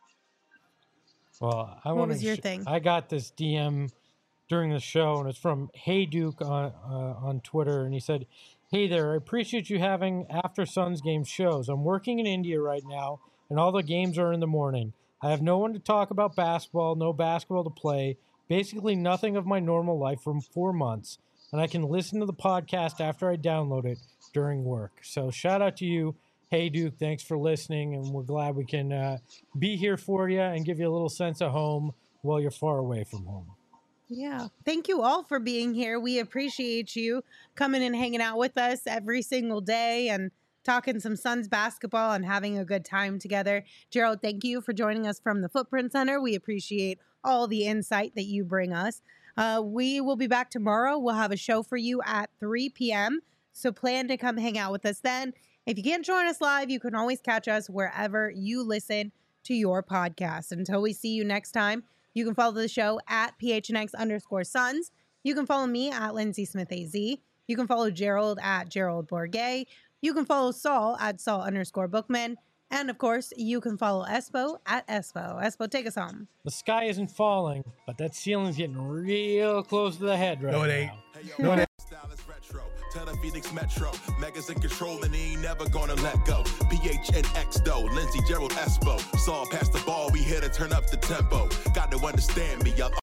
Speaker 2: Well, I
Speaker 1: What
Speaker 2: want
Speaker 1: was
Speaker 2: to.
Speaker 1: your
Speaker 2: Sh-
Speaker 1: thing?
Speaker 2: I got this D M during the show, and it's from Hey Duke on uh, on Twitter, and he said, "Hey there, I appreciate you having after Suns game shows. I'm working in India right now, and all the games are in the morning. I have no one to talk about basketball, no basketball to play, basically nothing of my normal life for four months, and I can listen to the podcast after I download it during work." So shout out to you, Hey Duke. Thanks for listening, and we're glad we can uh, be here for you and give you a little sense of home while you're far away from home.
Speaker 1: Yeah. Thank you all for being here. We appreciate you coming and hanging out with us every single day and talking some Suns basketball and having a good time together. Gerald, thank you for joining us from the Footprint Center. We appreciate all the insight that you bring us. Uh, we will be back tomorrow. We'll have a show for you at three p.m. So plan to come hang out with us then. If you can't join us live, you can always catch us wherever you listen to your podcast. Until we see you next time, you can follow the show at P H N X underscore Suns. You can follow me at Lindsay Smith A Z. You can follow Gerald at Gerald Bourget. You can follow Saul at Saul underscore Bookman. And of course, you can follow Espo at Espo. Espo, take us home.
Speaker 2: The sky isn't falling, but that ceiling's getting real close to the head right
Speaker 3: No, it
Speaker 2: now.
Speaker 3: ain't.
Speaker 5: No, it ain't. Style is retro. Tell the Phoenix Metro. Megas in control and he ain't never gonna let go. P H N X though. Lindsay, Gerald, Espo. Saw past the ball. We here to turn up the tempo. Got to understand me. Y'all